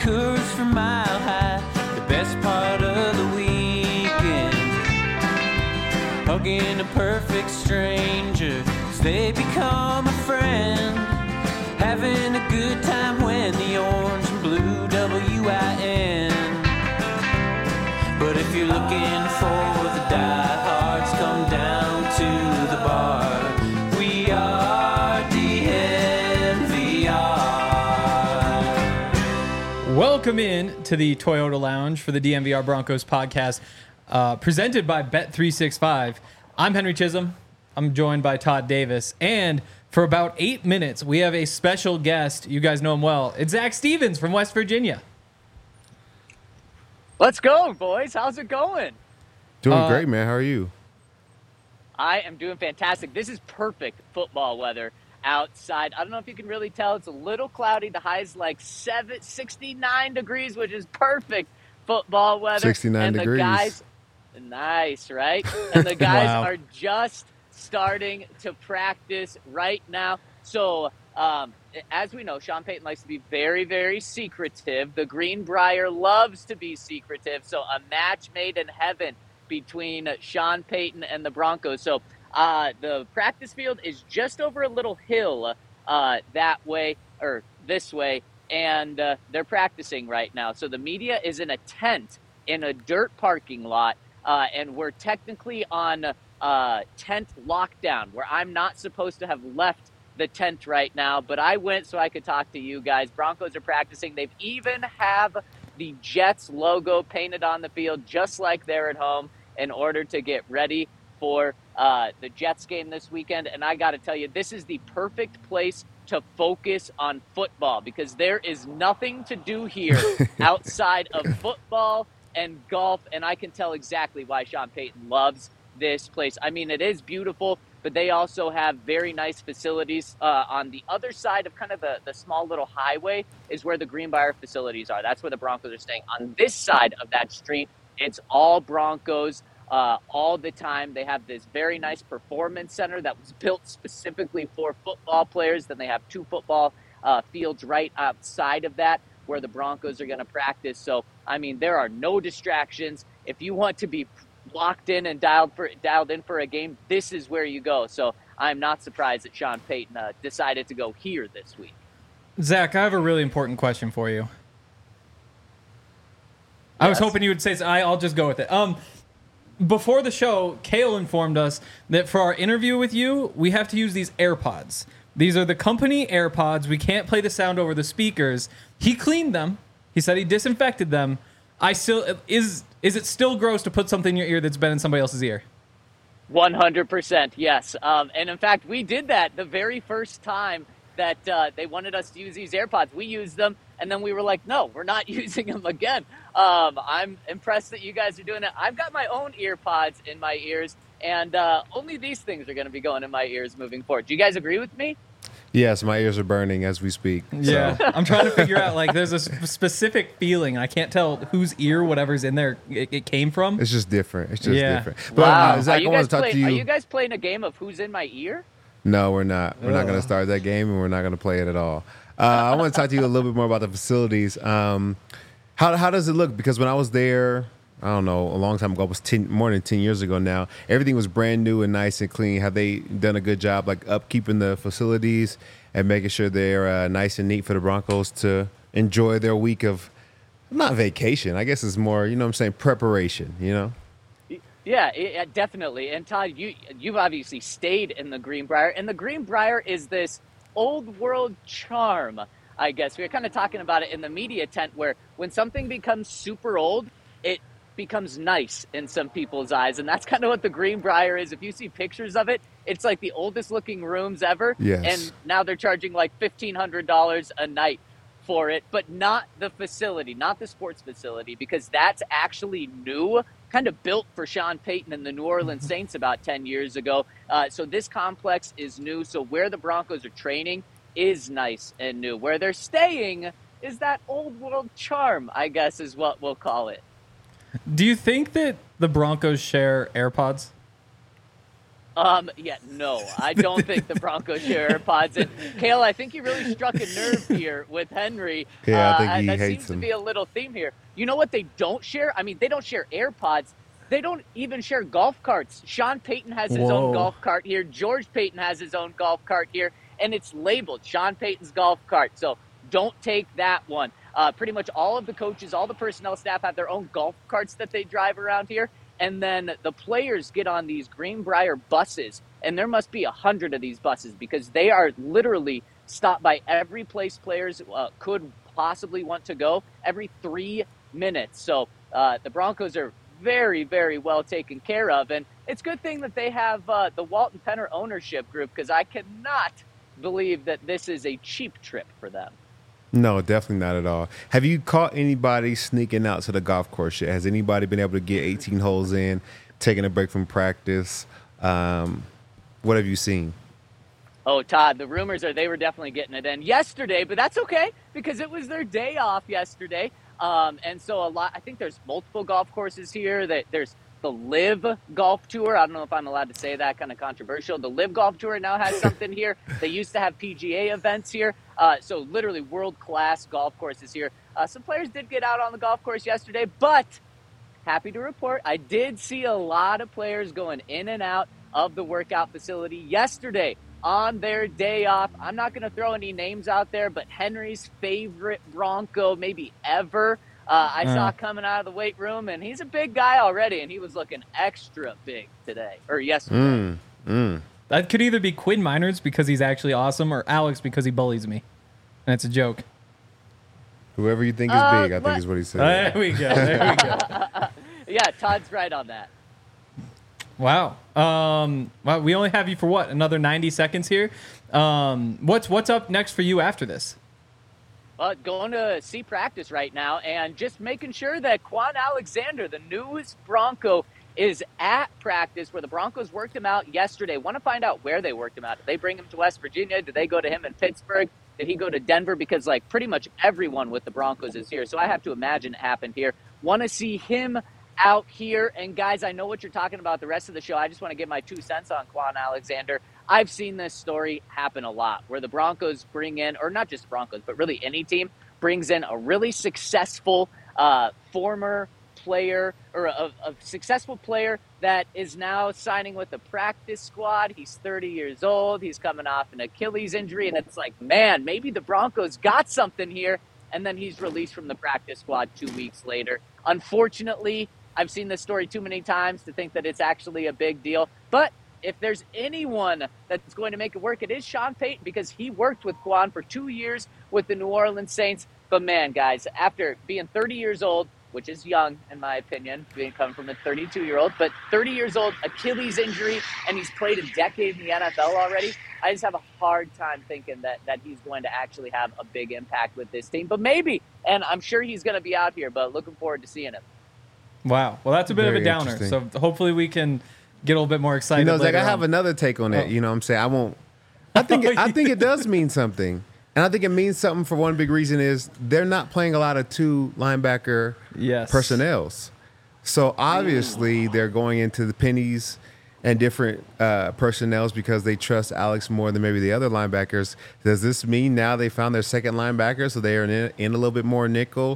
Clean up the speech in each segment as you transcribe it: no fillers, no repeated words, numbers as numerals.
Coors from Mile High, the best part of the weekend. Hugging a perfect stranger as they become a friend. Having a good time when the orange and blue WIN. But if you're looking for the diehards, come down to the bar. We are DNVR. Welcome in to the Toyota Lounge for the DNVR Broncos podcast, presented by Bet365. I'm Henry Chisholm. I'm joined by Todd Davis. And for about 8 minutes, we have a special guest. You guys know him well. It's Zach Stevens from West Virginia. Let's go, boys. How's it going? Doing great, man. How are you? I am doing fantastic. This is perfect football weather outside. I don't know if you can really tell. It's a little cloudy. The high is like 69 degrees, which is perfect football weather. 69 and degrees. The guys, nice, right? And the guys Wow. are just starting to practice right now. So, as we know, Sean Payton likes to be very, very secretive. The Greenbrier loves to be secretive. So a match made in heaven between Sean Payton and the Broncos. So the practice field is just over a little hill that way or this way, and they're practicing right now. So the media is in a tent in a dirt parking lot, and we're technically on tent lockdown, where I'm not supposed to have left the tent right now, but I went so I could talk to you guys. Broncos are practicing. They've even have the Jets logo painted on the field, just like they're at home, in order to get ready for the Jets game this weekend. And I got to tell you, this is the perfect place to focus on football, because there is nothing to do here outside of football and golf. And I can tell exactly why Sean Payton loves this place. I mean, it is beautiful, but they also have very nice facilities. On the other side of kind of the small little highway is where the Greenbrier facilities are. That's where the Broncos are staying. On this side of that street, it's all Broncos all the time. They have this very nice performance center that was built specifically for football players. Then they have 2 football fields right outside of that where the Broncos are going to practice. So, I mean, there are no distractions. If you want to be locked in and dialed in for a game, this is where you go. So I'm not surprised that Sean Payton decided to go here this week. Zach, I have a really important question for you. Yes. I was hoping you would say so. I'll just go with it. Before the show, Kale informed us that for our interview with you, we have to use these AirPods. These are the company AirPods. We can't play the sound over the speakers. He cleaned them. He said he disinfected them. Is it still gross to put something in your ear that's been in somebody else's ear? 100%, yes. And in fact, we did that the very first time that they wanted us to use these AirPods. We used them, and then we were like, no, we're not using them again. I'm impressed that you guys are doing it. I've got my own AirPods in my ears, and only these things are going to be going in my ears moving forward. Do you guys agree with me? Yes, my ears are burning as we speak. Yeah, So. I'm trying to figure out, like, there's a specific feeling. I can't tell whose ear whatever's in there it came from. It's just different. It's just Yeah. different. But Wow. Zach, I want to talk to you. Are you guys playing a game of who's in my ear? No, we're not. We're not going to start that game, and we're not going to play it at all. I want to talk to you a little bit more about the facilities. How does it look? Because when I was there, I don't know, a long time ago, it was more than 10 years ago now, everything was brand new and nice and clean. Have they done a good job, like, upkeeping the facilities and making sure they're nice and neat for the Broncos to enjoy their week of, not vacation, I guess it's more, you know what I'm saying, preparation, you know? Yeah, definitely. And Todd, you've obviously stayed in the Greenbrier, and the Greenbrier is this old world charm, I guess. We were kind of talking about it in the media tent, where when something becomes super old, it becomes nice in some people's eyes, and that's kind of what the Greenbrier is. If you see pictures of it, it's like the oldest looking rooms ever. Yes. And now they're charging like $1,500 a night for it, but not the facility, not the sports facility, because that's actually new, kind of built for Sean Payton and the New Orleans Saints about 10 years ago. So this complex is new. So where the Broncos are training is nice and new. Where they're staying is that old world charm, I guess is what we'll call it. Do you think that the Broncos share AirPods? Yeah, no, I don't think the Broncos share AirPods. And Kale, I think you really struck a nerve here with Henry. Yeah, I think he that hates seems them. to be a little theme here. You know what they don't share? I mean, they don't share AirPods. They don't even share golf carts. Sean Payton has his Whoa. own golf cart here. George Payton has his own golf cart here, and it's labeled Sean Payton's golf cart. So don't take that one. Pretty much all of the coaches, all the personnel staff have their own golf carts that they drive around here. And then the players get on these Greenbrier buses, and there must be 100 of these buses because they are literally stopped by every place players could possibly want to go every 3 minutes. So the Broncos are very, very well taken care of. And it's a good thing that they have the Walton Penner ownership group because I cannot believe that this is a cheap trip for them. No, definitely not at all. Have you caught anybody sneaking out to the golf course yet? Has anybody been able to get 18 holes in, taking a break from practice? What have you seen? Oh, Todd, the rumors are they were definitely getting it in yesterday, but that's okay because it was their day off yesterday. And so I think there's multiple golf courses here. There's the Live Golf Tour. I don't know if I'm allowed to say that, kind of controversial. The Live Golf Tour now has something here. They used to have PGA events here. So literally world-class golf courses here. Some players did get out on the golf course yesterday, but happy to report I did see a lot of players going in and out of the workout facility yesterday on their day off. I'm not going to throw any names out there, but Henry's favorite Bronco maybe ever, I saw coming out of the weight room, and he's a big guy already, and he was looking extra big today, or yesterday. That could either be Quinn Miners because he's actually awesome or Alex because he bullies me. And it's a joke. Whoever you think is big, I think is what he said. There we go. There we go. Yeah, Todd's right on that. Wow. Well, we only have you for what? Another 90 seconds here. What's up next for you after this? Going to see practice right now and just making sure that Quan Alexander, the newest Bronco, is at practice where the Broncos worked him out yesterday. Want to find out where they worked him out. Did they bring him to West Virginia? Did they go to him in Pittsburgh? Did he go to Denver? Because like pretty much everyone with the Broncos is here. So I have to imagine it happened here. Want to see him out here. And guys, I know what you're talking about the rest of the show. I just want to give my 2 cents on Quan Alexander. I've seen this story happen a lot where the Broncos bring in, or not just the Broncos, but really any team brings in a really successful former player or a successful player that is now signing with the practice squad. He's 30 years old. He's coming off an Achilles injury. And it's like, man, maybe the Broncos got something here. And then he's released from the practice squad 2 weeks later. Unfortunately, I've seen this story too many times to think that it's actually a big deal. But if there's anyone that's going to make it work, it is Sean Payton because he worked with Quan for 2 years with the New Orleans Saints. But man, guys, after being 30 years old, which is young in my opinion, coming from a 32-year-old, but 30 years old, Achilles injury, and he's played a decade in the NFL already. I just have a hard time thinking that he's going to actually have a big impact with this team. But maybe, and I'm sure he's going to be out here, but looking forward to seeing him. Wow. Well, that's a bit Very of a downer. So interesting. hopefully we can get a little bit more excited. You know, Zach, later I have on. another take on it. Oh. You know what I'm saying? I think it does mean something. And I think it means something for one big reason is they're not playing a lot of 2 linebacker Yes. personnels. So obviously they're going into the pennies and different personnels because they trust Alex more than maybe the other linebackers. Does this mean now they found their second linebacker, so they are in a little bit more nickel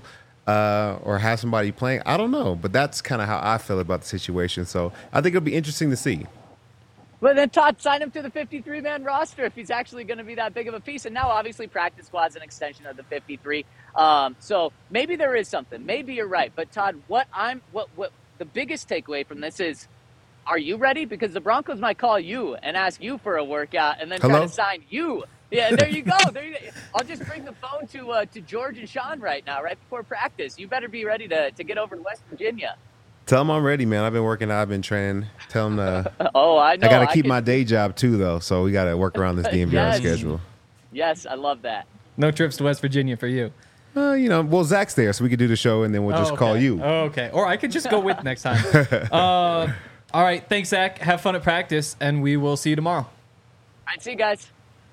or have somebody playing? I don't know, but that's kind of how I feel about the situation. So I think it'll be interesting to see. Well, then Todd, sign him to the 53-man roster if he's actually going to be that big of a piece. And now, obviously, practice squad's an extension of the 53. So maybe there is something. Maybe you're right. But Todd, what the biggest takeaway from this is, are you ready? Because the Broncos might call you and ask you for a workout and then try to sign you. Yeah, there you go. I'll just bring the phone to George and Sean right now, right before practice. You better be ready to get over to West Virginia. Tell them I'm ready, man. I've been working out. I've been training. Tell them Oh, I know. I got to keep my day job too, though. So we got to work around this DMVR Yes. schedule. Yes, I love that. No trips to West Virginia for you. Well, Zach's there, so we could do the show, and then we'll just okay. call you. Oh, okay. Or I could just go with next time. All right. Thanks, Zach. Have fun at practice, and we will see you tomorrow. All right, see you guys.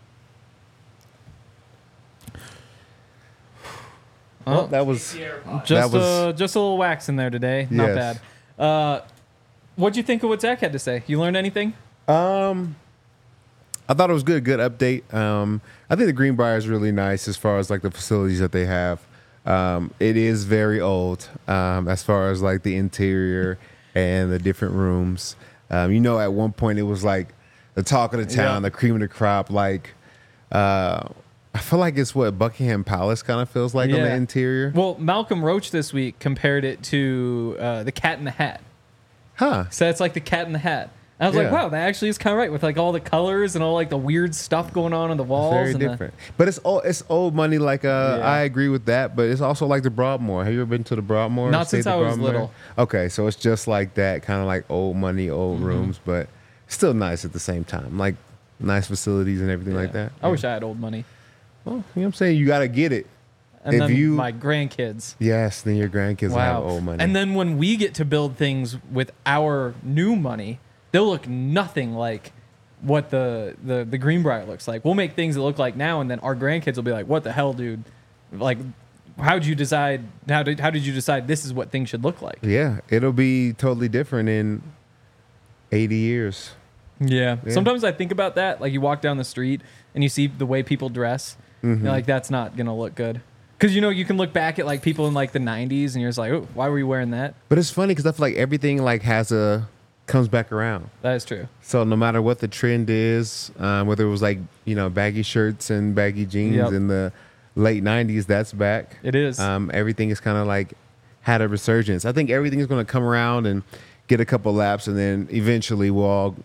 Well, that was Just was- a little wax in there today. Not Yes. bad. What'd you think of what Zach had to say? You learned anything? I thought it was good update. I think the Greenbrier is really nice as far as like the facilities that they have. It is very old as far as like the interior and the different rooms. At one point it was like the talk of the town, the cream of the crop. Like, I feel like it's what Buckingham Palace kind of feels like on the interior. Well, Malcolm Roach this week compared it to the Cat in the Hat. Huh. So it's like the Cat in the Hat. I was like, wow, that actually is kind of right with like all the colors and all like the weird stuff going on the walls. Very different. But it's old money. Like I agree with that. But it's also like the Broadmoor. Have you ever been to the Broadmoor? Not since I was little. Okay, so it's just like that, kind of like old money, old rooms, but still nice at the same time. Like nice facilities and everything like that. I wish I had old money. Well, you know what I'm saying? You got to get it. And then my grandkids. Yes, then your grandkids will have old money. And then when we get to build things with our new money, they'll look nothing like what the Greenbrier looks like. We'll make things that look like now, and then our grandkids will be like, "What the hell, dude? Like, how did you decide this is what things should look like?" Yeah, it'll be totally different in 80 years. Yeah. Sometimes I think about that. Like, you walk down the street and you see the way people dress. You're like, that's not gonna look good. Because you can look back at like people in like the 90s, and you're just like, "Oh, why were you wearing that?" But it's funny because I feel like everything like comes back around. That is true. So no matter what the trend is, whether it was like, baggy shirts and baggy jeans in the late 90s, that's back. It is. Everything is kind of like had a resurgence. I think everything is going to come around and get a couple laps, and then eventually we'll all,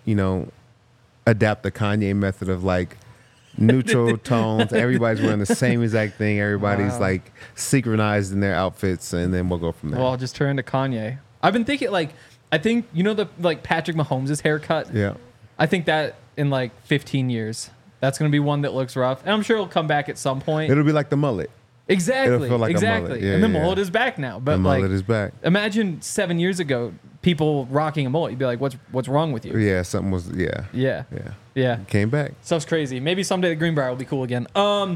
adapt the Kanye method of like neutral tones. Everybody's wearing the same exact thing. Everybody's like synchronized in their outfits, and then we'll go from there. Well, I'll just turn to Kanye. I've been thinking I think the Patrick Mahomes' haircut. Yeah. I think that in like 15 years, that's going to be one that looks rough, and I'm sure it'll come back at some point. It'll be like the mullet. Exactly. It'll feel like a mullet. Yeah, and the mullet is back now. But the mullet is back. Imagine 7 years ago, people rocking a mullet. You'd be like, "What's wrong with you?" Yeah, something was. Yeah. Came back. Stuff's crazy. Maybe someday the Greenbrier will be cool again. All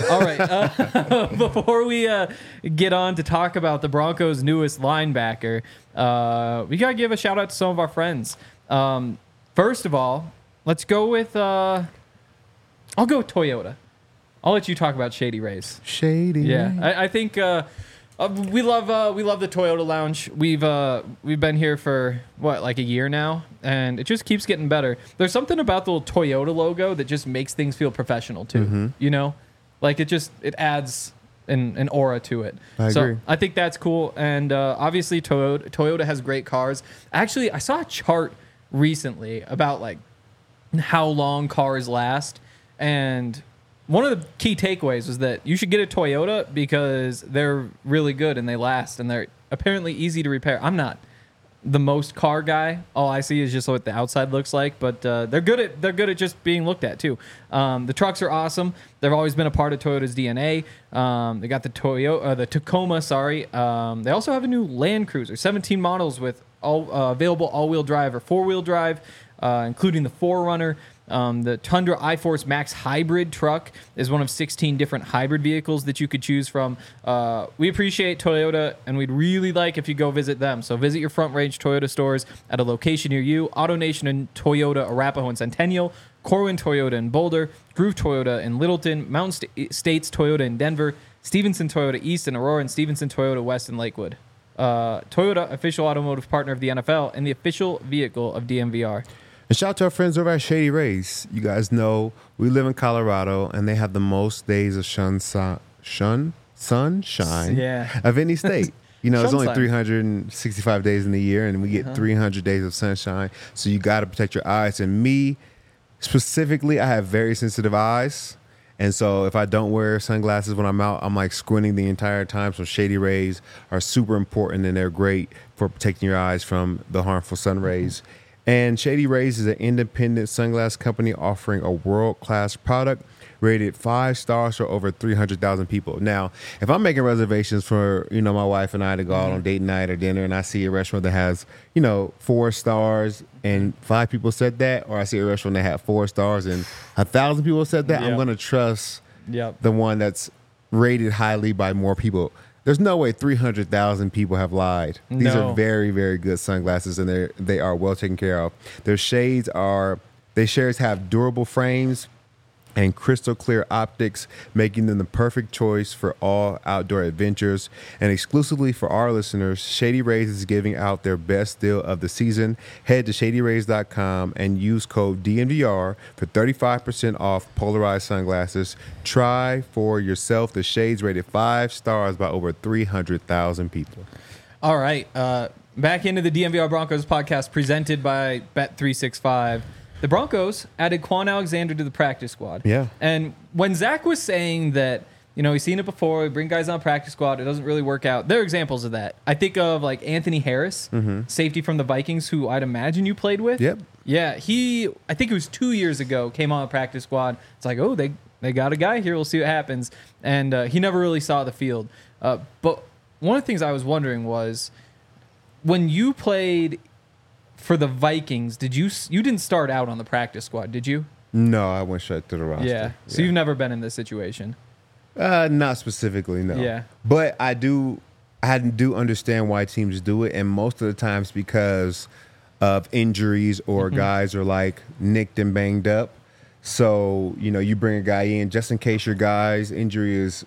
right. Before we get on to talk about the Broncos' newest linebacker, we gotta give a shout out to some of our friends. First of all, let's go with. I'll go with Toyota. I'll let you talk about Shady Rays. Shady. Yeah, I think we love the Toyota Lounge. We've been here for like a year now, and it just keeps getting better. There's something about the little Toyota logo that just makes things feel professional too. Like it adds an aura to it. I agree. I think that's cool, and obviously Toyota has great cars. Actually, I saw a chart recently about like how long cars last, and one of the key takeaways was that you should get a Toyota because they're really good and they last, and they're apparently easy to repair. I'm not the most car guy. All I see is just what the outside looks like, but they're good at just being looked at too. The trucks are awesome. They've always been a part of Toyota's DNA. They got the Tacoma. They also have a new Land Cruiser, 17 models with available all-wheel drive or four-wheel drive, including the 4Runner. The Tundra iForce Max hybrid truck is one of 16 different hybrid vehicles that you could choose from. We appreciate Toyota, and we'd really like if you go visit them. So visit your Front Range Toyota stores at a location near you. AutoNation and Toyota Arapahoe and Centennial, Corwin Toyota in Boulder, Groove Toyota in Littleton, Mountain States Toyota in Denver, Stevenson Toyota East in Aurora, and Stevenson Toyota West in Lakewood. Toyota, official automotive partner of the NFL and the official vehicle of DMVR. And shout out to our friends over at Shady Rays. You guys know we live in Colorado, and they have the most days of sunshine of any state. There's only 365 days in the year, and we get 300 days of sunshine. So you got to protect your eyes. And me, specifically, I have very sensitive eyes. And so if I don't wear sunglasses when I'm out, I'm like squinting the entire time. So Shady Rays are super important, and they're great for protecting your eyes from the harmful sun rays. And Shady Rays is an independent sunglass company offering a world-class product rated 5 stars for over 300,000 people. Now, if I'm making reservations for, my wife and I to go out on date night or dinner, and I see a restaurant that has, 4 stars and 5 people said that, or I see a restaurant that had 4 stars and 1,000 people said that, I'm going to trust the one that's rated highly by more people. There's no way 300,000 people have lied. These No. are very, very good sunglasses, and they are well taken care of. Their shades have durable frames and crystal clear optics, making them the perfect choice for all outdoor adventures. And exclusively for our listeners, Shady Rays is giving out their best deal of the season. Head to shadyrays.com and use code DNVR for 35% off polarized sunglasses. Try for yourself the shades rated 5 stars by over 300,000 people. All right. Back into the DMVR Broncos podcast presented by Bet365. The Broncos added Quan Alexander to the practice squad. Yeah. And when Zach was saying that, he's seen it before, we bring guys on practice squad, it doesn't really work out. There are examples of that. I think of like Anthony Harris, safety from the Vikings, who I'd imagine you played with. Yep. Yeah. I think it was 2 years ago, came on the practice squad. It's like, oh, they got a guy here. We'll see what happens. And he never really saw the field. But one of the things I was wondering was when you played for the Vikings, you didn't start out on the practice squad, did you? No, I went straight to the roster. Yeah. So you've never been in this situation. Not specifically, no. Yeah. But I do understand why teams do it, and most of the times because of injuries or guys are like nicked and banged up. So, you bring a guy in just in case your guy's injury is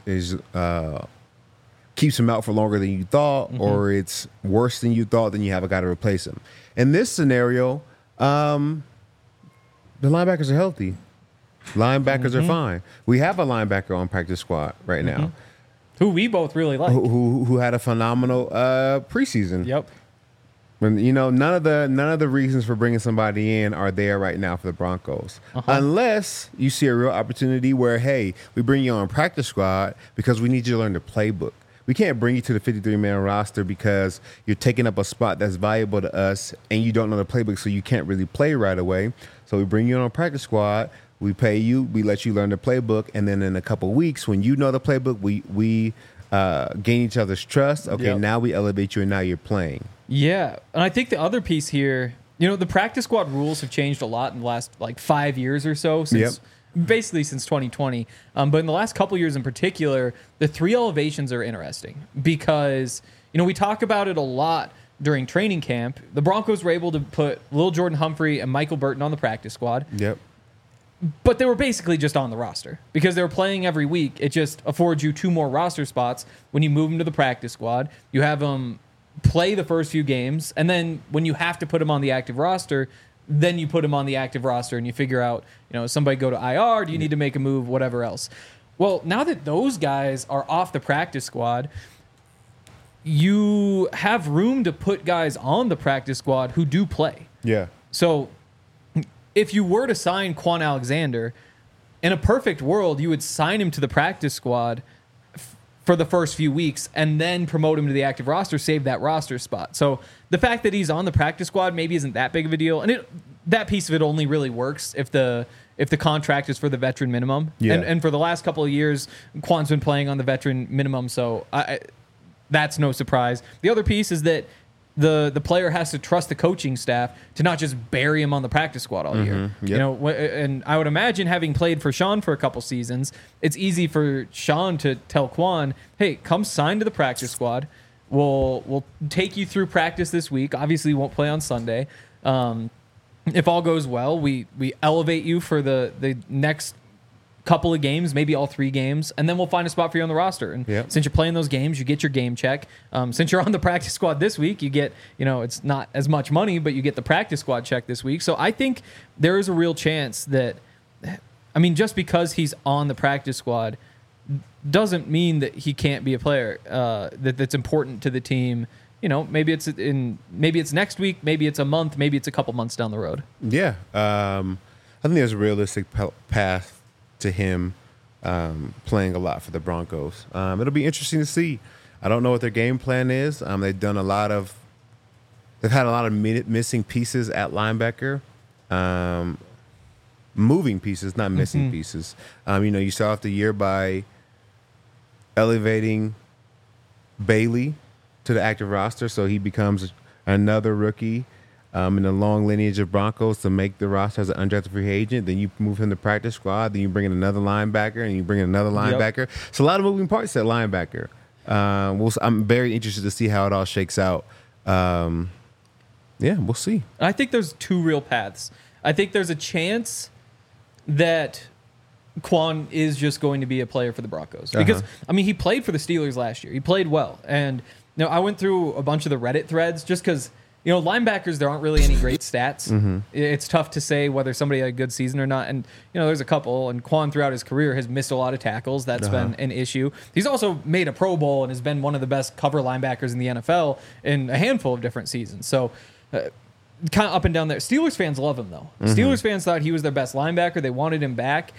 keeps him out for longer than you thought, or it's worse than you thought, then you have a guy to replace him. In this scenario, the linebackers are healthy. Linebackers are fine. We have a linebacker on practice squad right now Who we both really like. who had a phenomenal preseason. Yep. When none of the reasons for bringing somebody in are there right now for the Broncos, unless you see a real opportunity where, hey, we bring you on practice squad because we need you to learn the playbook. We can't bring you to the 53-man roster because you're taking up a spot that's valuable to us and you don't know the playbook, so you can't really play right away. So we bring you on a practice squad, we pay you, we let you learn the playbook, and then in a couple weeks, when you know the playbook, we gain each other's trust. Okay, now we elevate you, and now you're playing. Yeah. And I think the other piece here, the practice squad rules have changed a lot in the last 5 years or so basically since 2020. But in the last couple years in particular, the 3 elevations are interesting because, we talk about it a lot during training camp. The Broncos were able to put Lil Jordan Humphrey and Michael Burton on the practice squad. Yep. But they were basically just on the roster because they were playing every week. It just affords you 2 more roster spots when you move them to the practice squad. You have them play the first few games, and then when you have to put them on the active roster, then you put them on the active roster and you figure out, somebody go to IR, do you need to make a move, whatever else. Well, now that those guys are off the practice squad, you have room to put guys on the practice squad who do play. Yeah. So if you were to sign Quan Alexander, in a perfect world, you would sign him to the practice squad for the first few weeks and then promote him to the active roster, save that roster spot. So the fact that he's on the practice squad maybe isn't that big of a deal. And that piece of it only really works if the contract is for the veteran minimum. Yeah. And for the last couple of years, Quan's been playing on the veteran minimum, so that's no surprise. The other piece is that the player has to trust the coaching staff to not just bury him on the practice squad all year. Yep. And I would imagine, having played for Sean for a couple seasons, it's easy for Sean to tell Quan, hey, come sign to the practice squad. We'll take you through practice this week. Obviously, you won't play on Sunday. If all goes well, we elevate you for the next couple of games, maybe all 3 games, and then we'll find a spot for you on the roster. And since you're playing those games, you get your game check. Since you're on the practice squad this week, you get, it's not as much money, but you get the practice squad check this week. So I think there is a real chance that, just because he's on the practice squad doesn't mean that he can't be a player that's important to the team. Maybe it's next week, maybe it's a month, maybe it's a couple months down the road. Yeah. I think there's a realistic path to him playing a lot for the Broncos. It'll be interesting to see. I don't know what their game plan is. They've had a lot of missing pieces at linebacker, moving pieces, not missing pieces. You start off the year by elevating Bailey to the active roster, so he becomes another rookie in the long lineage of Broncos to make the roster as an undrafted free agent. Then you move him to practice squad. Then you bring in another linebacker, and you bring in another linebacker. So a lot of moving parts at linebacker. I'm very interested to see how it all shakes out. Yeah, we'll see. I think there's two real paths. I think there's a chance that Quan is just going to be a player for the Broncos because I mean he played for the Steelers last year. He played well, and I went through a bunch of the Reddit threads just because linebackers there aren't really any great stats. It's tough to say whether somebody had a good season or not, and there's a couple. And Quan throughout his career has missed a lot of tackles. That's been an issue. He's also made a Pro Bowl and has been one of the best cover linebackers in the NFL in a handful of different seasons. So. Kind of up and down there. Steelers fans love him though. Steelers fans thought he was their best linebacker. They wanted him back.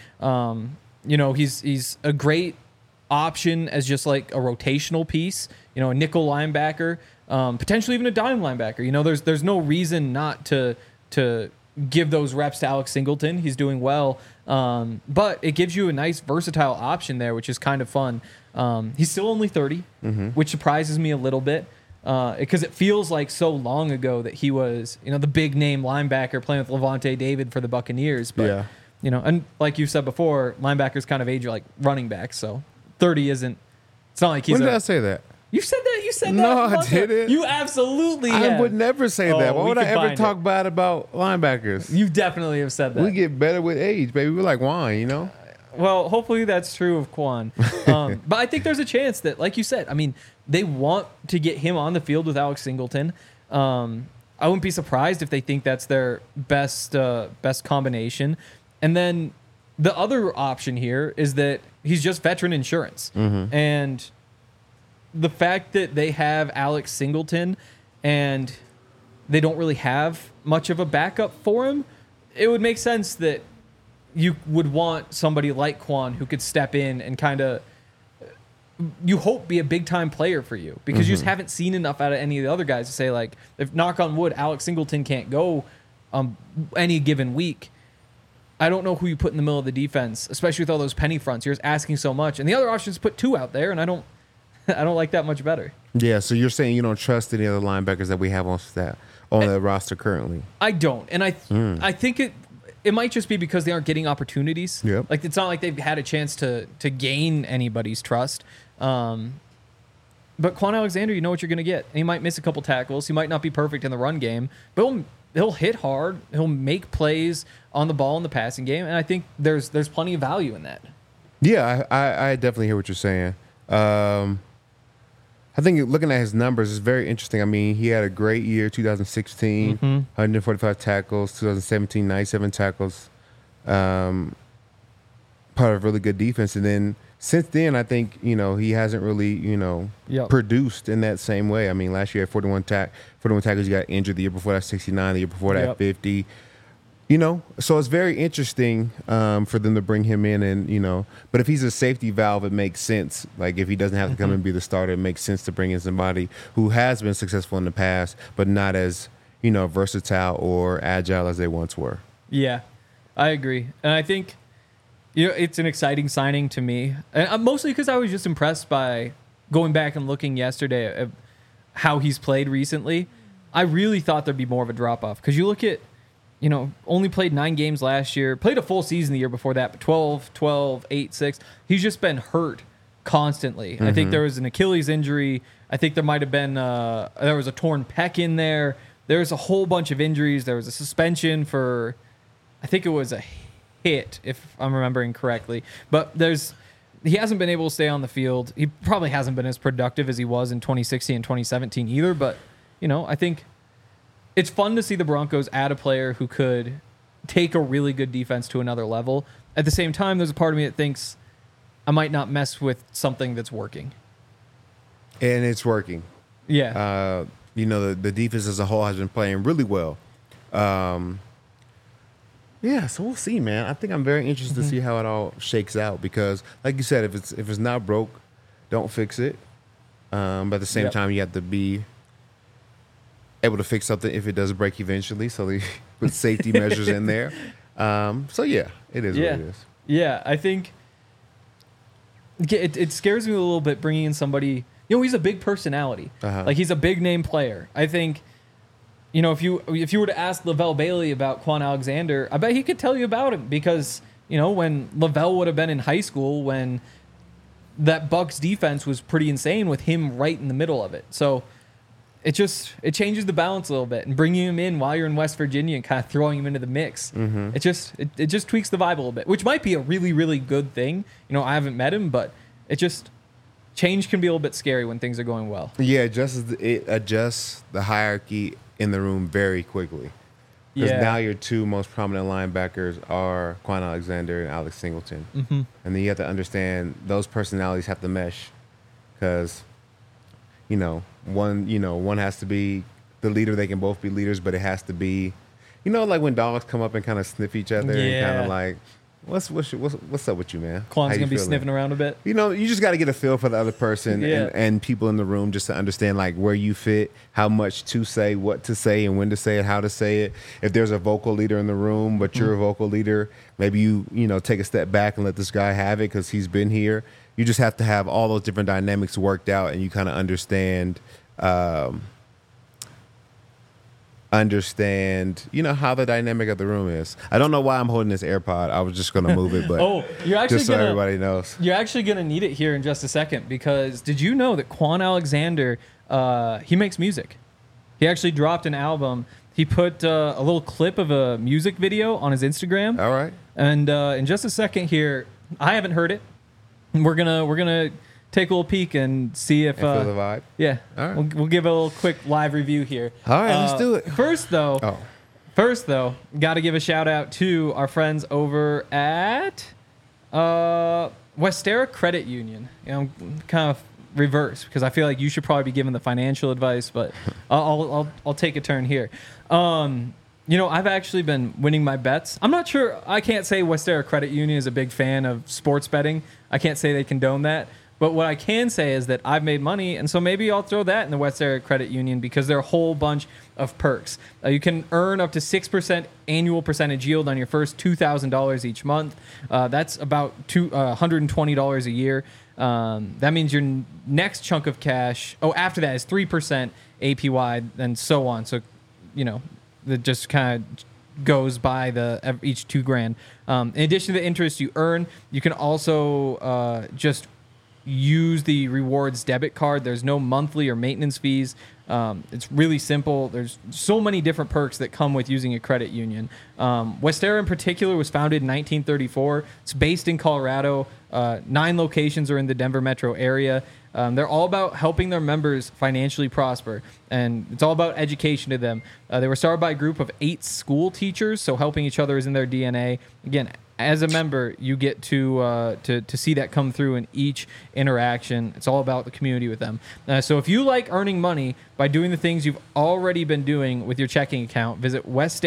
He's a great option as just like a rotational piece. A nickel linebacker, potentially even a dime linebacker. There's no reason not to give those reps to Alex Singleton. He's doing well, but it gives you a nice versatile option there, which is kind of fun. He's still only 30, which surprises me a little bit. Because it feels like so long ago that he was, the big name linebacker playing with Levante David for the Buccaneers. But, and like you said before, linebackers kind of age like running backs. So 30 isn't, it's not like he's When did I say that? You said that. You said No, that. I didn't. You absolutely I have. would never say that. Why we would I can ever find talk it. bad about linebackers? You definitely have said that. We get better with age, baby. We're like wine, Well, hopefully that's true of Quan. But I think there's a chance that, like you said, I mean, they want to get him on the field with Alex Singleton. I wouldn't be surprised if they think that's their best combination. And then the other option here is that he's just veteran insurance. And the fact that they have Alex Singleton and they don't really have much of a backup for him, it would make sense that you would want somebody like Quan who could step in and kind of, you hope, be a big-time player for you because you just haven't seen enough out of any of the other guys to say, like, if, knock on wood, Alex Singleton can't go any given week, I don't know who you put in the middle of the defense, especially with all those penny fronts. You're just asking so much. And the other option is put two out there, and I don't like that much better. Yeah, so you're saying you don't trust any other linebackers that we have on the roster currently? I don't. And I think it might just be because they aren't getting opportunities. Yep. Like, it's not like they've had a chance to gain anybody's trust. But Quan Alexander, you know what you're going to get. And he might miss a couple tackles. He might not be perfect in the run game, but he'll hit hard. He'll make plays on the ball in the passing game. And I think there's plenty of value in that. Yeah, I definitely hear what you're saying. I think looking at his numbers is very interesting. I mean, he had a great year, 2016, 145 tackles, 2017, 97 tackles, part of a really good defense. And then since then, I think, he hasn't really, produced in that same way. I mean, last year at 41 tackles, he got injured. The year before that, 69. The year before that, 50. So it's very interesting for them to bring him in and, but if he's a safety valve, it makes sense. Like if he doesn't have to come and be the starter, it makes sense to bring in somebody who has been successful in the past, but not as, versatile or agile as they once were. Yeah, I agree. And I think, it's an exciting signing to me. And mostly because I was just impressed by going back and looking yesterday at how he's played recently. I really thought there'd be more of a drop-off because you look at, only played 9 games last year, played a full season the year before that, but 12, 8, 6. He's just been hurt constantly. I think there was an Achilles injury. I think there might have been, there was a torn pec in there. There was a whole bunch of injuries. There was a suspension for, I think it was a hit, if I'm remembering correctly. But he hasn't been able to stay on the field. He probably hasn't been as productive as he was in 2016 and 2017 either, but, I think it's fun to see the Broncos add a player who could take a really good defense to another level. At the same time, there's a part of me that thinks I might not mess with something that's working. And it's working. Yeah. The defense as a whole has been playing really well. Yeah, so we'll see, man. I think I'm very interested to see how it all shakes out because, like you said, if it's not broke, don't fix it. But at the same time, you have to be able to fix something if it does break eventually. So they put safety measures in there. So yeah, it is what it is. Yeah, I think it scares me a little bit bringing in somebody. He's a big personality. Like he's a big name player. I think, if you were to ask Lavelle Bailey about Quan Alexander, I bet he could tell you about him because when Lavelle would have been in high school when that Bucks defense was pretty insane with him right in the middle of it. So it changes the balance a little bit, and bringing him in while you're in West Virginia and kind of throwing him into the mix. It just tweaks the vibe a little bit, which might be a really, really good thing. I haven't met him, but change can be a little bit scary when things are going well. Yeah, it adjusts the hierarchy in the room very quickly. Because now your two most prominent linebackers are Quan Alexander and Alex Singleton. And then you have to understand those personalities have to mesh. Because, one has to be the leader. They can both be leaders, but it has to be, like when dogs come up and kind of sniff each other and kind of like, what's up with you, man? Quan's going to be sniffing around a bit. You just got to get a feel for the other person and people in the room just to understand like where you fit, how much to say, what to say, and when to say it, how to say it. If there's a vocal leader in the room, but you're a vocal leader, maybe you take a step back and let this guy have it because he's been here. You just have to have all those different dynamics worked out, and you kind of understand how the dynamic of the room is. I don't know why I'm holding this AirPod. I was just going to move it, but you're actually just so everybody knows. You're actually going to need it here in just a second, because did you know that Quan Alexander, he makes music? He actually dropped an album. He put a little clip of a music video on his Instagram. All right. And in just a second here, I haven't heard it. We're gonna take a little peek and see if feel the vibe. Yeah. All right. We'll give a little quick live riview here. All right, let's do it. First though, got to give a shout out to our friends over at Westera Credit Union. I'm kind of reverse because I feel like you should probably be giving the financial advice, but I'll take a turn here. I've actually been winning my bets. I'm not sure. I can't say Westera Credit Union is a big fan of sports betting. I can't say they condone that. But what I can say is that I've made money, and so maybe I'll throw that in the Westera Credit Union because there are a whole bunch of perks. You can earn up to 6% annual percentage yield on your first $2,000 each month. That's about $120 a year. That means your next chunk of cash, after that is 3% APY and so on. So, that just kind of goes by each $2,000. In addition to the interest you earn, you can also just use the rewards debit card. There's no monthly or maintenance fees. It's really simple. There's so many different perks that come with using a credit union. Westera in particular was founded in 1934. It's based in Colorado. 9 locations are in the Denver metro area. They're all about helping their members financially prosper, and it's all about education to them. They were started by a group of 8 school teachers, so helping each other is in their DNA. Again, as a member, you get to see that come through in each interaction. It's all about the community with them. So if you like earning money by doing the things you've already been doing with your checking account, visit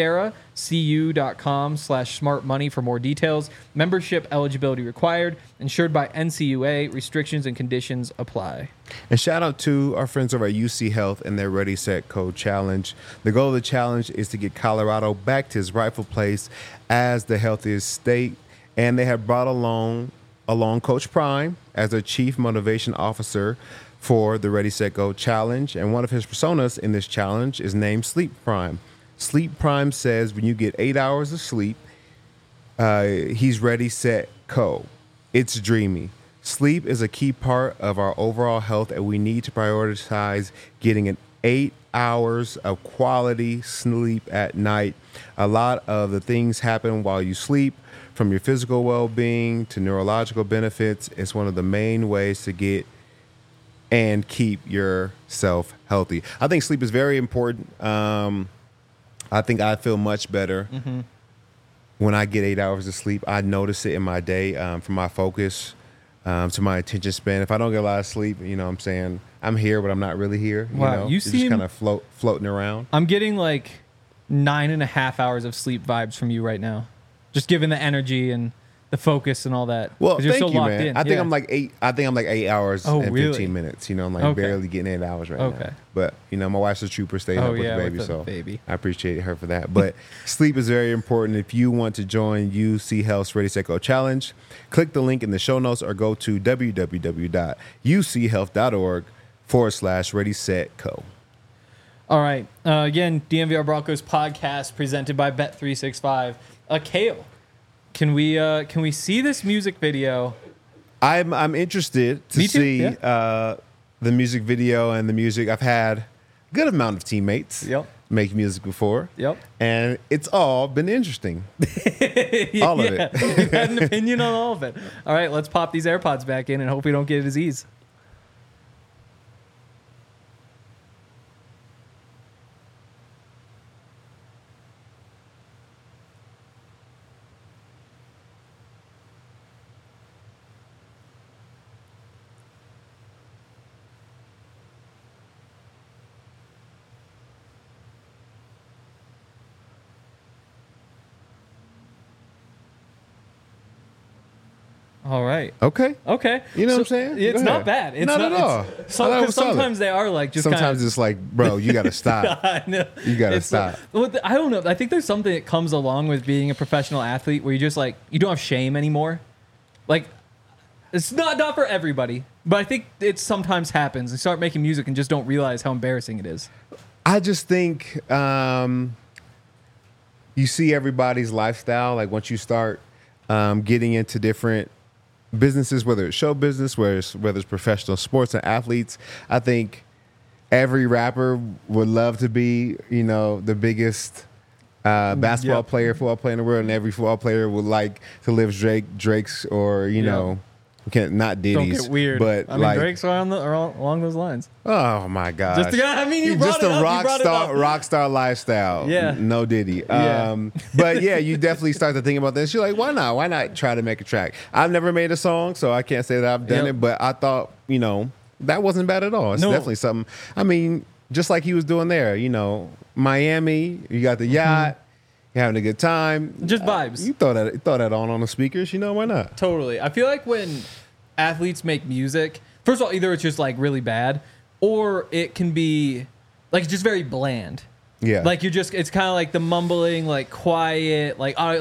westeracu.com/smartmoney for more details. Membership eligibility required. Insured by NCUA. Restrictions and conditions apply. And shout out to our friends over at UC Health and their Ready, Set, Code Challenge. The goal of the challenge is to get Colorado back to its rightful place as the healthiest state. And they have brought along Coach Prime as their chief motivation officer for the Ready, Set, Go Challenge. And one of his personas in this challenge is named Sleep Prime. Sleep Prime says when you get 8 hours of sleep, he's ready, set, go. It's dreamy. Sleep is a key part of our overall health, and we need to prioritize getting an 8 hours of quality sleep at night. A lot of the things happen while you sleep, from your physical well-being to neurological benefits. It's one of the main ways to get and keep yourself healthy. I think sleep is very important. I think I feel much better when I get 8 hours of sleep. I notice it in my day, from my focus to my attention span. If I don't get a lot of sleep, I'm saying I'm here, but I'm not really here. Wow, you seem just kind of floating around. I'm getting like 9.5 hours of sleep vibes from you right now, just given the energy and the focus and all that. Well, you're thank so you, locked man. in. I think I'm like 8. I think I'm like 8 hours and really? 15 minutes. I'm like Okay. barely getting 8 hours right Okay. now. But my wife's a trooper, staying up with the baby, with the so baby. I appreciate her for that. But sleep is very important. If you want to join UC Health's Ready, Set, Go Challenge, click the link in the show notes or go to www.uchealth.org/Ready, Set, Go. All right. Again, DNVR Broncos podcast presented by Bet365. Kale, can we see this music video I'm interested to Me too, see yeah. the music video and the music. I've had a good amount of teammates Yep. make music before. Yep. And it's all been interesting. All of it. You've had an opinion on all of it. All right, let's pop these AirPods back in and hope we don't get a disease. All right. Okay. Okay. You know what I'm saying? It's Go not ahead. bad. It's Not at all. It's, I thought it because was solid. sometimes they are like just Sometimes kind it's like, bro, you got to stop. I know. You gotta It's like- stop. well, I don't know. I think there's something that comes along with being a professional athlete where you just like you don't have shame anymore. Like it's not for everybody, but I think it sometimes happens. You start making music and just don't realize how embarrassing it is. I just think you see everybody's lifestyle. Like once you start getting into different businesses, whether it's show business, whether it's professional sports and athletes, I think every rapper would love to be, the biggest basketball Yep. player, football player in the world, and every football player would like to live Drake's or not Diddy's. Don't get weird. But I mean, like, Drake's are along those lines. oh my god! You brought just it a up. You brought it up. rock star lifestyle. Yeah. No Diddy. Yeah. But yeah, you definitely start to think about this. You're like, why not? Why not try to make a track? I've never made a song, so I can't say that I've done Yep. it. But I thought, that wasn't bad at all. It's No. definitely something. I mean, just like he was doing there. Miami. You got the yacht. You're having a good time. Just vibes. You throw that on the speakers. Why not? Totally. I feel like when athletes make music, first of all, either it's just like really bad, or it can be like it's just very bland. Yeah. Like it's kind of like the mumbling, like quiet,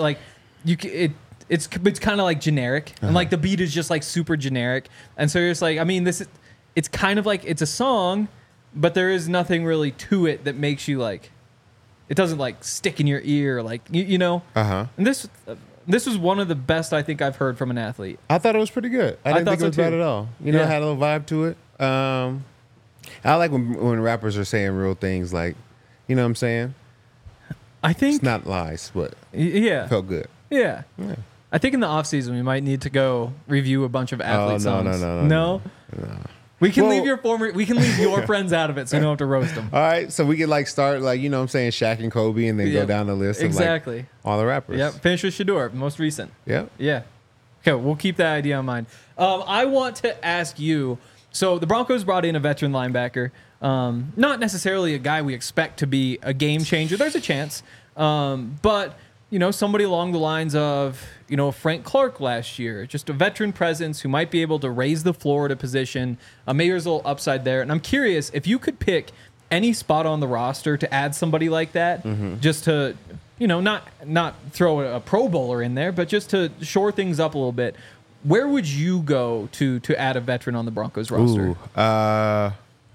it's kind of like generic, and like the beat is just like super generic, and so you're just like, I mean, it's kind of like it's a song, but there is nothing really to it that makes you like, it doesn't like stick in your ear, like you know. Uh-huh. And this was one of the best I think I've heard from an athlete. I thought it was pretty good. I didn't thought think it was so, bad too. at all. It Yeah. had a little vibe to it. I like when rappers are saying real things, like, you know what I'm saying? I think It's not lies, but yeah. it felt good. Yeah. Yeah. I think in the off season we might need to go review a bunch of athlete no, songs. no. We can Well- leave your friends out of it, so you don't have to roast them. All right, so we could like start like, you know what I'm saying, Shaq and Kobe, and then go Yep. down the list Exactly. of like all the rappers. Yep. Finish with Shador, most recent. Yep. Yeah. Okay, we'll keep that idea in mind. I want to ask you. So the Broncos brought in a veteran linebacker, not necessarily a guy we expect to be a game changer. There's a chance, but somebody along the lines of Frank Clark last year, just a veteran presence who might be able to raise the floor at a position. Maybe there's a little upside there, and I'm curious if you could pick any spot on the roster to add somebody like that, just to not throw a Pro Bowler in there, but just to shore things up a little bit. Where would you go to add a veteran on the Broncos roster? Ooh,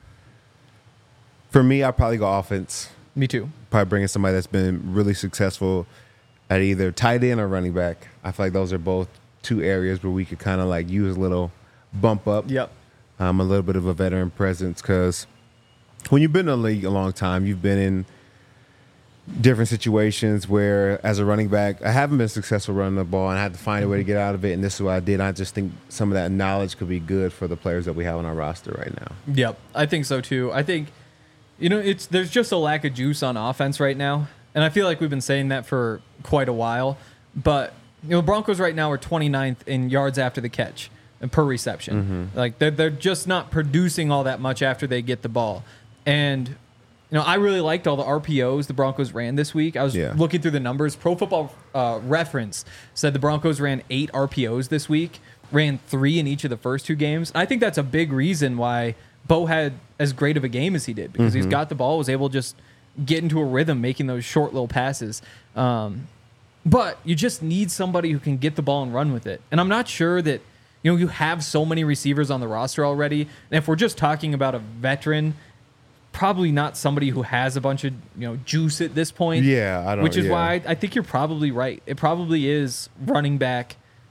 for me, I'd probably go offense. Me too. Probably bringing somebody that's been really successful at either tight end or running back. I feel like those are both two areas where we could kind of like use a little bump up. Yep. A little bit of a veteran presence, because when you've been in the league a long time, you've been in different situations where, as a running back, I haven't been successful running the ball, and I had to find a way to get out of it, and this is what I did. I just think some of that knowledge could be good for the players that we have on our roster right now. Yep. I think so too. I think there's just a lack of juice on offense right now, and I feel like we've been saying that for quite a while. But Broncos right now are 29th in yards after the catch and per reception. Like they're just not producing all that much after they get the ball. And I really liked all the RPOs the Broncos ran this week. I was looking through the numbers. Pro Football Reference said the Broncos ran 8 RPOs this week, ran 3 in each of the first 2 games. I think that's a big reason why Bo had as great of a game as he did, because he's got the ball, was able to just get into a rhythm making those short little passes. But you just need somebody who can get the ball and run with it. And I'm not sure that you have so many receivers on the roster already. And if we're just talking about a veteran, probably not somebody who has a bunch of juice at this point. Yeah, I don't. Which is yeah. why I think you're probably right. It probably is running back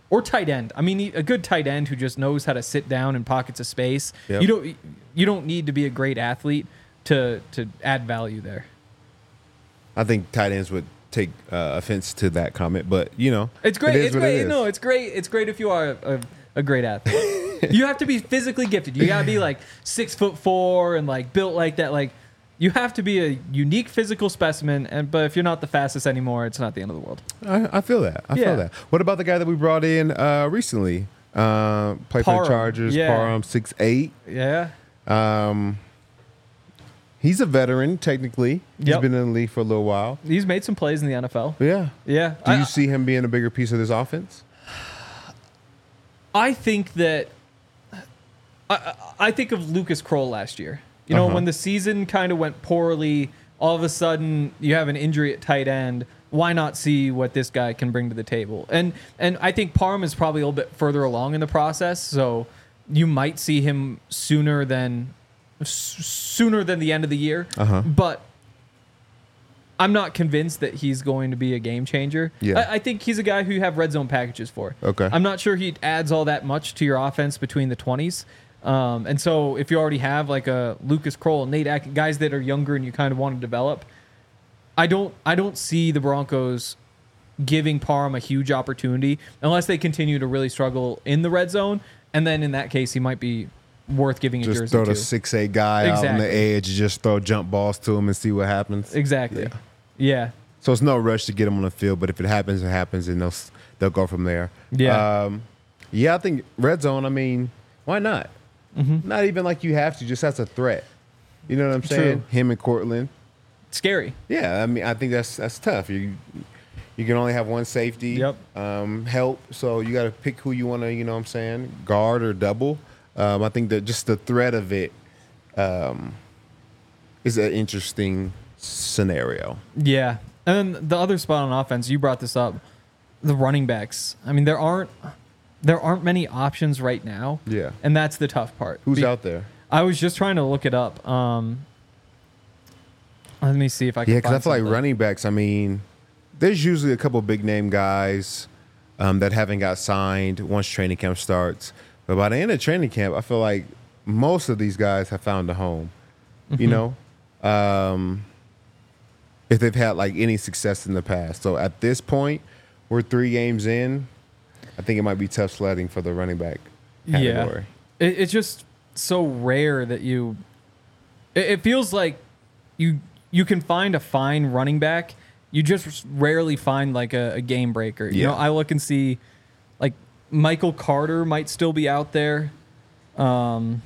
or tight end. I mean, a good tight end who just knows how to sit down in pockets of space. Yep. You don't need to be a great athlete to add value there. I think tight ends would take offense to that comment, but It's great. It is It's what great. it is. No, it's great. It's great if you are a great athlete. You have to be physically gifted. You gotta be like 6'4" and like built like that. Like you have to be a unique physical specimen. But if you're not the fastest anymore, it's not the end of the world. I feel that. I Yeah. feel that. What about the guy that we brought in recently? Played for the Parham. Chargers. Yeah. Parham, 6'8". Yeah. He's a veteran, technically. He's Yep. been in the league for a little while. He's made some plays in the NFL. Yeah. Yeah. Do you see him being a bigger piece of this offense? I think that I think of Lucas Kroll last year. You know, when the season kind of went poorly, all of a sudden you have an injury at tight end. Why not see what this guy can bring to the table? And I think Parham is probably a little bit further along in the process, so you might see him sooner than the end of the year. But I'm not convinced that he's going to be a game changer. Yeah. I think he's a guy who you have red zone packages for. Okay. I'm not sure he adds all that much to your offense between the 20s. And so if you already have like a Lucas Kroll, Nate Atkins, guys that are younger and you kind of want to develop, I don't see the Broncos giving Parham a huge opportunity unless they continue to really struggle in the red zone. And then in that case, he might be worth giving a Just jersey throw to. the 6'8" guy out on the Exactly. edge, just throw jump balls to him and see what happens. Exactly. Yeah. Yeah. So it's no rush to get him on the field, but if it happens, it happens, and they'll go from there. Yeah. Yeah, I think red zone, I mean, why not? Not even like you have to, just as a threat. You know what I'm saying? True. Him and Cortland. Scary. Yeah, I mean, I think that's tough. You can only have one safety. Yep. Help. So you got to pick who you want to, you know what I'm saying, guard or double. I think that just the threat of it is an interesting scenario. Yeah. And then the other spot on offense, you brought this up, the running backs. I mean, there aren't many options right now. Yeah. And that's the tough part. Who's out there? I was just trying to look it up. Let me see if I can Yeah, because I find feel like something. running backs, I mean, there's usually a couple big name guys that haven't got signed once training camp starts. But by the end of training camp, I feel like most of these guys have found a home, you know, if they've had like any success in the past. So at this point, we're 3 games in. I think it might be tough sledding for the running back category. Yeah. It's just so rare that it feels like you can find a fine running back. You just rarely find like a game breaker. You know, I look and see like Michael Carter might still be out there. Evan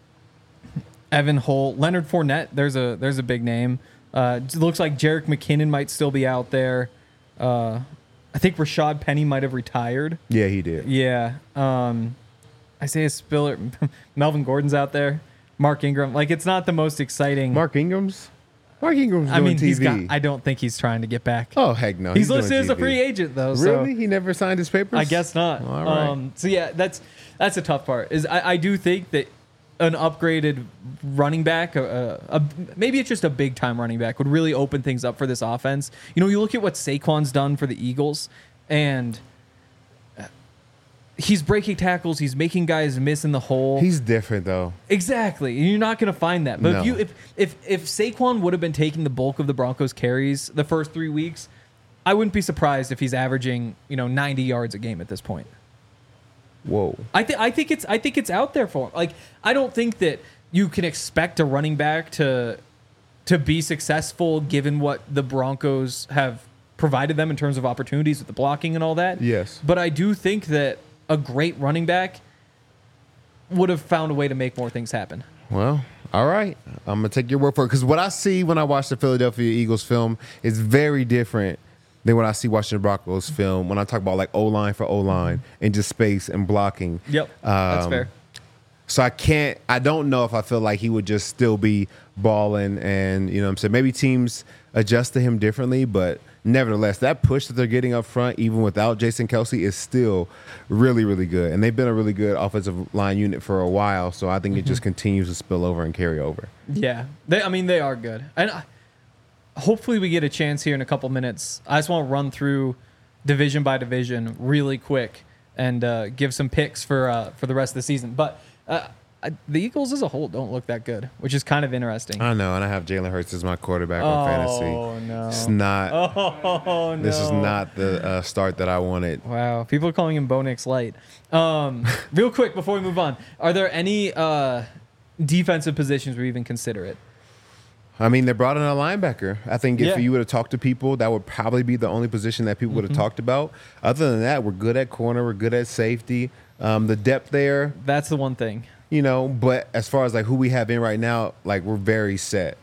Holt, Leonard Fournette. There's a big name. It looks like Jerick McKinnon might still be out there. I think Rashad Penny might have retired. Yeah, he did. Yeah. Isaiah Spiller, Melvin Gordon's out there. Mark Ingram. Like, it's not the most exciting. Mark Ingram's doing I mean, TV. I don't think he's trying to get back. Oh, heck no. he's doing listed as a TV. free agent though. Really? So He never signed his papers? I guess not. All right. So yeah, that's a tough part. Is I do think that an upgraded running back, maybe it's just a big time running back, would really open things up for this offense. You know, you look at what Saquon's done for the Eagles, and he's breaking tackles. He's making guys miss in the hole. He's different, though. Exactly. You're not going to find that. But No. if Saquon would have been taking the bulk of the Broncos carries the first 3 weeks, I wouldn't be surprised if he's averaging, 90 yards a game at this point. Whoa. I think it's out there for him. Like, I don't think that you can expect a running back to be successful given what the Broncos have provided them in terms of opportunities with the blocking and all that. Yes. But I do think that a great running back would have found a way to make more things happen. Well, all right. I'm going to take your word for it. Because what I see when I watch the Philadelphia Eagles film is very different than what I see watching the Broncos film when I talk about like O-line for O-line and just space and blocking. Yep. That's fair. So I don't know if I feel like he would just still be balling and, you know what I'm saying, maybe teams adjust to him differently, but nevertheless, that push that they're getting up front, even without Jason Kelce, is still really, really good. And they've been a really good offensive line unit for a while, so I think it just continues to spill over and carry over. Yeah. They are good. And hopefully we get a chance here in a couple minutes. I just want to run through division by division really quick and give some picks for the rest of the season. But the Eagles as a whole don't look that good, which is kind of interesting. I know, and I have Jalen Hurts as my quarterback on fantasy. Oh no! It's not. Oh no! This is not the start that I wanted. Wow, people are calling him Bo Nix Light. Real quick before we move on, are there any defensive positions where you even consider it? I mean, they brought in a linebacker. I think if Yeah. you would have talked to people, that would probably be the only position that people would have talked about. Other than that, we're good at corner. We're good at safety. The depth there, That's the one thing. but as far as like who we have in right now, like we're very set.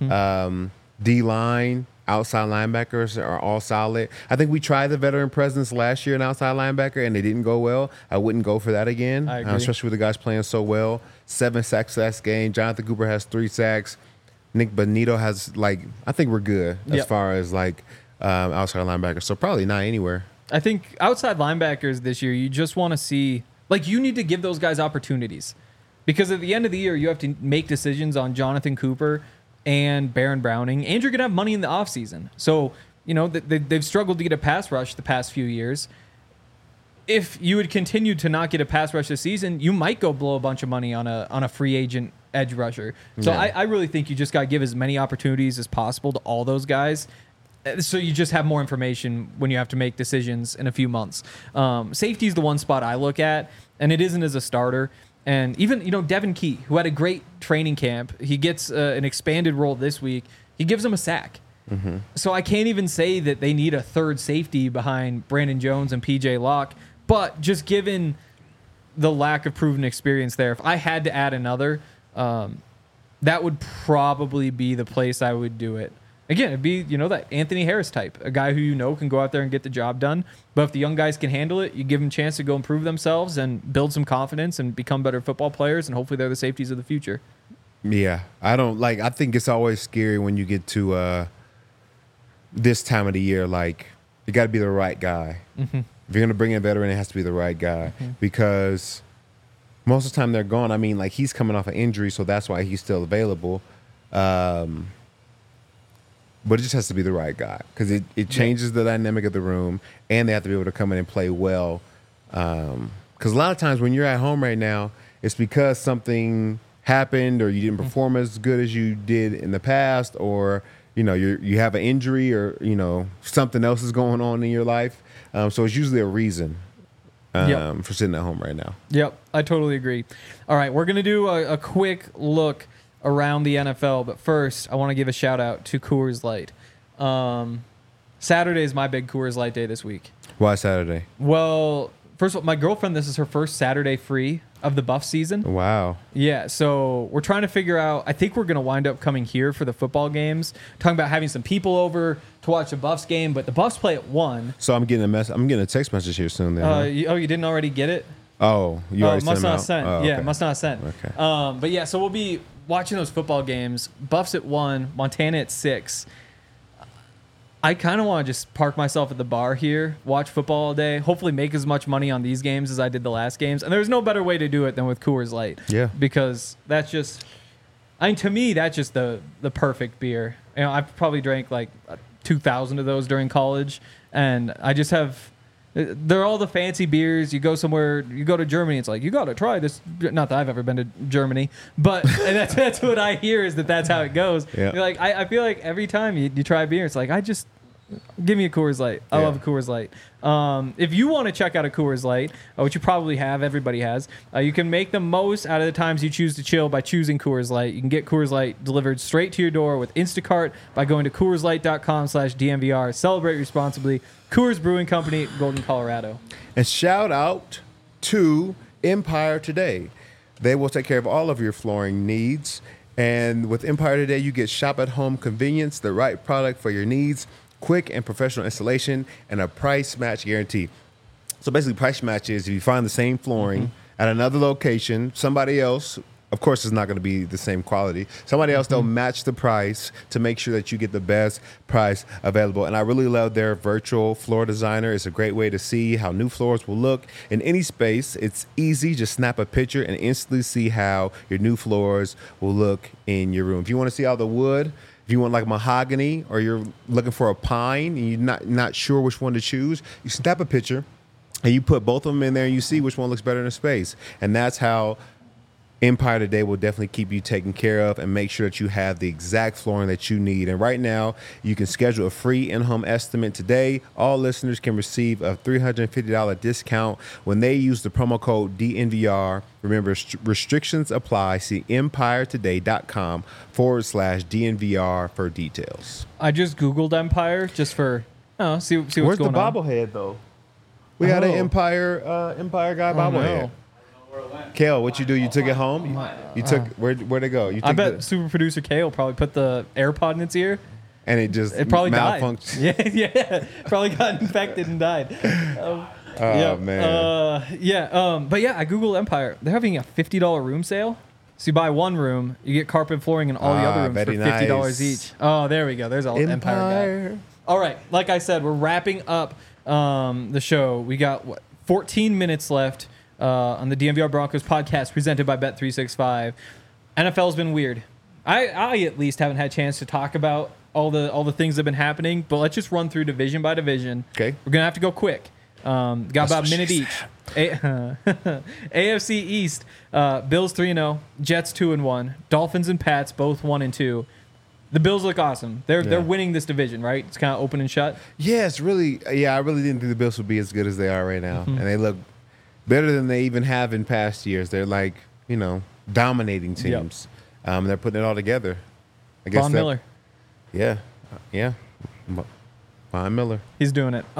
D-line, outside linebackers are all solid. I think we tried the veteran presence last year in outside linebacker, and they didn't go well. I wouldn't go for that again, I agree. especially with the guys playing so well. 7 sacks last game. Jonathan Cooper has 3 sacks. Nick Bonito has, I think we're good as Yep. far as, outside linebackers. So probably not anywhere. I think outside linebackers this year, you just want to see, you need to give those guys opportunities. Because at the end of the year, you have to make decisions on Jonathan Cooper and Baron Browning, and you're going to have money in the offseason. So, they've struggled to get a pass rush the past few years. If you would continue to not get a pass rush this season, you might go blow a bunch of money on a free agent edge rusher. So Yeah. I really think you just got to give as many opportunities as possible to all those guys. So you just have more information when you have to make decisions in a few months. Safety is the one spot I look at, and it isn't as a starter. And even, Devin Key, who had a great training camp, he gets an expanded role this week. He gives him a sack. So I can't even say that they need a third safety behind Brandon Jones and PJ Locke. But just given the lack of proven experience there, if I had to add another, that would probably be the place I would do it. Again, it'd be, that Anthony Harris type, a guy who can go out there and get the job done. But if the young guys can handle it, you give them a chance to go improve themselves and build some confidence and become better football players, and hopefully they're the safeties of the future. Yeah. I think it's always scary when you get to this time of the year. You got to be the right guy. If you're going to bring in a veteran, it has to be the right guy. Because most of the time they're gone. I mean, he's coming off an injury, so that's why he's still available. But it just has to be the right guy because it changes the dynamic of the room, and they have to be able to come in and play well. Because a lot of times when you're at home right now, it's because something happened or you didn't perform as good as you did in the past, or you have an injury, or something else is going on in your life. So it's usually a reason for sitting at home right now. Yep, I totally agree. All right, we're going to do a quick look around the NFL, but first I want to give a shout out to Coors Light. Saturday is my big Coors Light day this week. Why Saturday? Well, first of all, my girlfriend, this is her first Saturday free of the Buff season. Wow. Yeah, so we're trying to figure out, I think we're going to wind up coming here for the football games, talking about having some people over to watch the Buffs game, but the Buffs play at 1. So I'm getting a text message here soon then. Huh? You didn't already get it? Oh, you already must sent them not out? sent. Oh, Yeah, okay. must not sent. Okay. But yeah, so we'll be watching those football games. Buffs at 1, Montana at 6. I kind of want to just park myself at the bar here, watch football all day, hopefully make as much money on these games as I did the last games. And there's no better way to do it than with Coors Light. Yeah. Because that's just, to me, that's just the perfect beer. I've probably drank 2,000 of those during college, and I just have. They're all the fancy beers. You go somewhere, you go to Germany, it's you got to try this. Not that I've ever been to Germany, but and that's what I hear is that's how it goes. Yeah. You're I feel like every time you try beer, it's give me a Coors Light. I love a Coors Light. If you want to check out a Coors Light, which you probably have, everybody has, you can make the most out of the times you choose to chill by choosing Coors Light. You can get Coors Light delivered straight to your door with Instacart by going to CoorsLight.com/DMVR. Celebrate responsibly. Coors Brewing Company, Golden, Colorado. And shout out to Empire Today. They will take care of all of your flooring needs. And with Empire Today, you get shop-at-home convenience, the right product for your needs, quick and professional installation, and a price match guarantee. So basically, price match is if you find the same flooring at another location, somebody else, of course, it's not going to be the same quality. Somebody else, they'll match the price to make sure that you get the best price available. And I really love their virtual floor designer. It's a great way to see how new floors will look in any space. It's easy. Just snap a picture and instantly see how your new floors will look in your room. If you want to see all the wood, if you want mahogany, or you're looking for a pine and you're not sure which one to choose, you snap a picture And you put both of them in there and you see which one looks better in space. And that's how Empire Today will definitely keep you taken care of and make sure that you have the exact flooring that you need. And right now, you can schedule a free in-home estimate today. All listeners can receive a $350 discount when they use the promo code DNVR. Remember, restrictions apply. See empiretoday.com/DNVR for details. I just Googled Empire just for see what's Where's the going on. bobblehead, though? We got an Empire guy bobblehead. no. Kale, what you do? You took it home? You took where'd it go? You took I bet super producer Kale probably put the AirPod in its ear. and it just It probably died. malfunctioned. Yeah. Probably got infected and died. Man. But yeah, I Googled Empire. They're having a $50 room sale. So you buy one room, you get carpet and flooring in all the other rooms for very $50 nice. each. Oh, there we go. There's all Empire guy. All right, like I said, we're wrapping up the show. We got 14 minutes left on the DNVR Broncos podcast presented by Bet365. NFL's been weird. I at least haven't had a chance to talk about all the things that have been happening, but let's just run through division by division. Okay. We're gonna have to go quick. Got about a minute each. AFC East, Bills 3-0, Jets 2-1, Dolphins and Pats both 1-2. The Bills look awesome. They're winning this division, right? It's kind of open and shut. Yeah, it's really. Yeah, I really didn't think the Bills would be as good as they are right now, and they look better than they even have in past years. They're like dominating teams. They're putting it all together. I guess Von Miller, Yeah. Von Miller. he's doing it.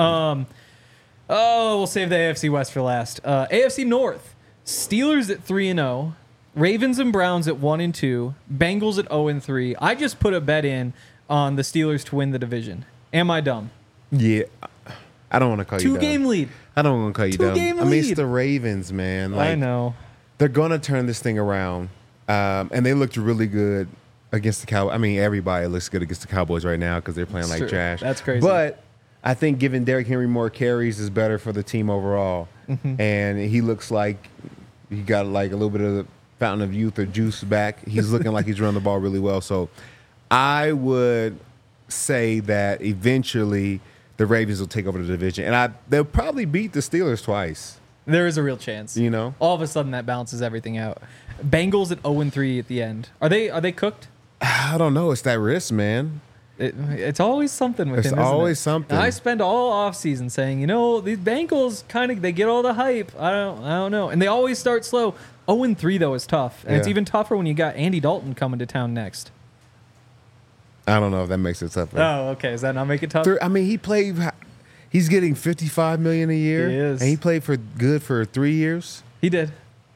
We'll save the AFC West for last. AFC North, Steelers at 3-0. Ravens and Browns at 1-2, Bengals at 0-3. I just put a bet in on the Steelers to win the division. Am I dumb? Yeah, I don't want to call you dumb. 2-game lead. I don't want to call you dumb. 2-game I mean, it's lead. the Ravens, man. I know. They're gonna turn this thing around, and they looked really good against the Cowboys. I mean, everybody looks good against the Cowboys right now because they're playing It's like true. trash. That's crazy. But I think giving Derrick Henry more carries is better for the team overall, and he looks like he got like a little bit of the fountain of youth or juice back. He's looking like he's running the ball really well. So I would say that eventually the Ravens will take over the division, and they'll probably beat the Steelers twice. There is a real chance. All of a sudden that balances everything out. Bengals at 0-3 at the end. Are they cooked? I don't know. It's that risk, man. It's always something with him. It's always isn't it? something. And I spend all offseason saying, these Bengals they get all the hype. I don't know. And they always start slow. 0-3 though is tough. And it's Yeah. even tougher when you got Andy Dalton coming to town next. I don't know if that makes it tougher. Oh, okay. Does that not make it tough? I mean, he's getting $55 million a year. He is. And he played for 3 years. He did.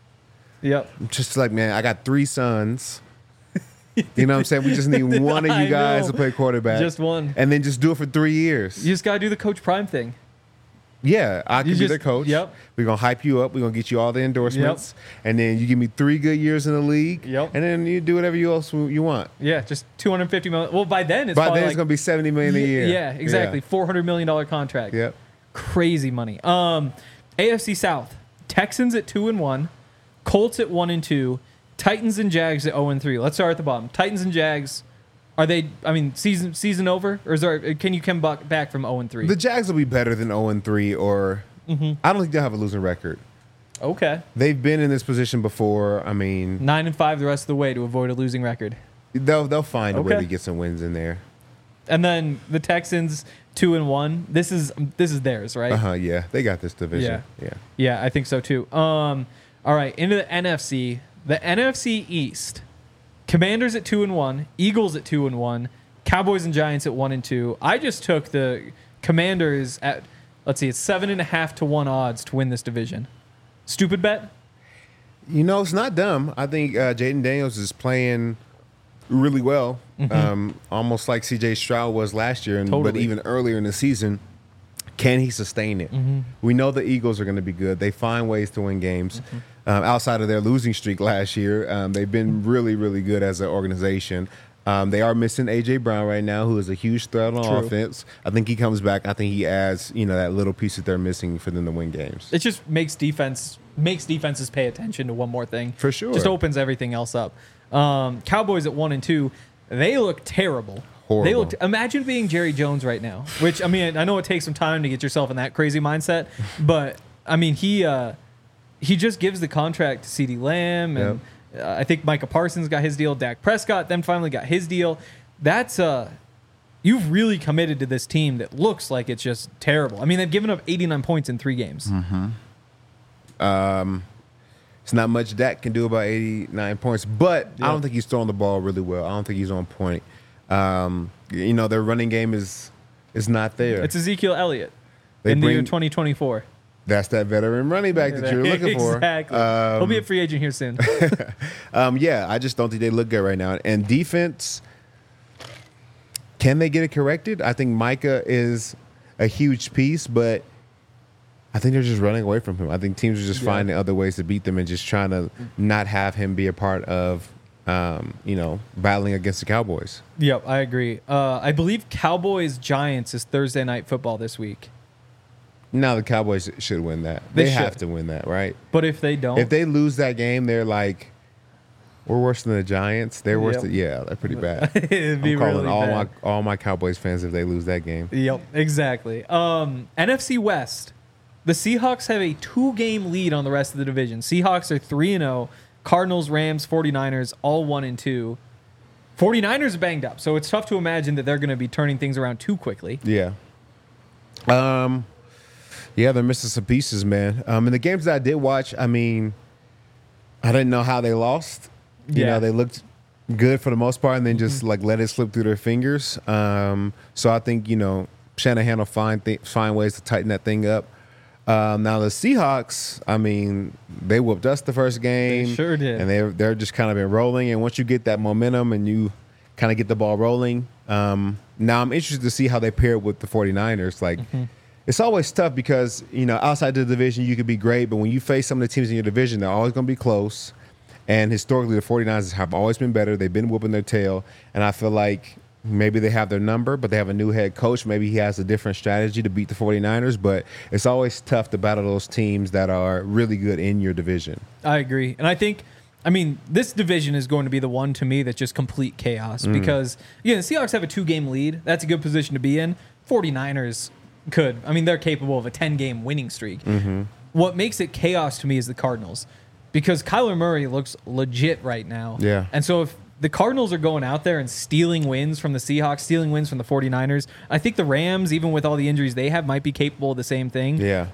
Yep. Just like, man, I got 3 sons. You know what I'm saying? We just need one of I you guys know. to play quarterback. Just one. And then just do it for 3 years. You just got to do the Coach Prime thing. Yeah, I can be just- the coach. yep. We're going to hype you up. We're going to get you all the endorsements. And then you give me 3 good years in the league. Yep. And then you do whatever you want. Yeah, just $250 million. Well, by then it's By probably then it's going to be $70 million a year. Yeah, exactly. $400 million contract. Yep. Crazy money. AFC South, Texans at 2-1, Colts at 1-2, Titans and Jags at 0-3. Let's start at the bottom. Titans and Jags, are they? I mean, season over, or can you come back from 0-3? The Jags will be better than 0-3, or I don't think they'll have a losing record. Okay, They've been in this position before. I mean, 9-5 the rest of the way to avoid a losing record. they'll find a way Okay. to get some wins in there. And then the Texans 2-1. This is theirs, right? Yeah, they got this division. Yeah. Yeah, I think so too. All right, into the NFC. The NFC East. Commanders at 2-1, Eagles at 2-1, Cowboys and Giants at 1-2. I just took the Commanders at, let's see, it's 7.5 to 1 odds to win this division. Stupid bet? It's not dumb. I think Jaden Daniels is playing really well, almost like C.J. Stroud was last year, but Totally. even earlier in the season. Can he sustain it? We know the Eagles are going to be good. They find ways to win games. Outside of their losing streak last year, they've been really, really good as an organization. They are missing A.J. Brown right now, who is a huge threat on True. offense. I think he comes back. I think he adds, that little piece that they're missing for them to win games. It just makes defenses pay attention to one more thing. For sure. Just opens everything else up. Cowboys at 1-2. They look terrible. Horrible. Imagine being Jerry Jones right now, which, I mean, I know it takes some time to get yourself in that crazy mindset, but I mean, he just gives the contract to CeeDee Lamb, and I think Micah Parsons got his deal. Dak Prescott then finally got his deal. That's you've really committed to this team that looks like it's just terrible. I mean, they've given up 89 points in 3 games. It's not much Dak can do about 89 points, but I don't think he's throwing the ball really well. I don't think he's on point. Their running game is not there. It's Ezekiel Elliott in the year 2024. That's that veteran running back that you're looking for. Exactly. He'll be a free agent here soon. I just don't think they look good right now. And defense, can they get it corrected? I think Micah is a huge piece, but I think they're just running away from him. I think teams are just finding other ways to beat them and just trying to not have him be a part of, battling against the Cowboys. Yep, I agree. I believe Cowboys-Giants is Thursday Night Football this week. Now the Cowboys should win that. They have to win that, right? But if they don't, if they lose that game, they're like, we're worse than the Giants. They're worse than they're pretty bad. It'd be I'm calling really all my Cowboys fans if they lose that game. Yep, exactly. NFC West. The Seahawks have a 2-game lead on the rest of the division. Seahawks are 3-0. Cardinals, Rams, 49ers, all 1-2. 49ers are banged up, so it's tough to imagine that they're going to be turning things around too quickly. Yeah. They're missing some pieces, man. In the games that I did watch, I mean, I didn't know how they lost. They looked good for the most part and then just let it slip through their fingers. So I think, Shanahan will find ways to tighten that thing up. Now the Seahawks, I mean, they whooped us the first game. They sure did. And they're just kind of been rolling. And once you get that momentum and you kind of get the ball rolling, now I'm interested to see how they pair with the 49ers. It's always tough because, outside the division, you could be great. But when you face some of the teams in your division, they're always going to be close. And historically, the 49ers have always been better. They've been whooping their tail. And I feel like maybe they have their number, but they have a new head coach. Maybe he has a different strategy to beat the 49ers. But it's always tough to battle those teams that are really good in your division. I agree. And I think, this division is going to be the one to me that's just complete chaos. Because, the Seahawks have a 2-game lead. That's a good position to be in. 49ers could. They're capable of a 10-game winning streak. What makes it chaos to me is the Cardinals. Because Kyler Murray looks legit right now. Yeah. And so if the Cardinals are going out there and stealing wins from the Seahawks, stealing wins from the 49ers, I think the Rams, even with all the injuries they have, might be capable of the same thing. Yeah.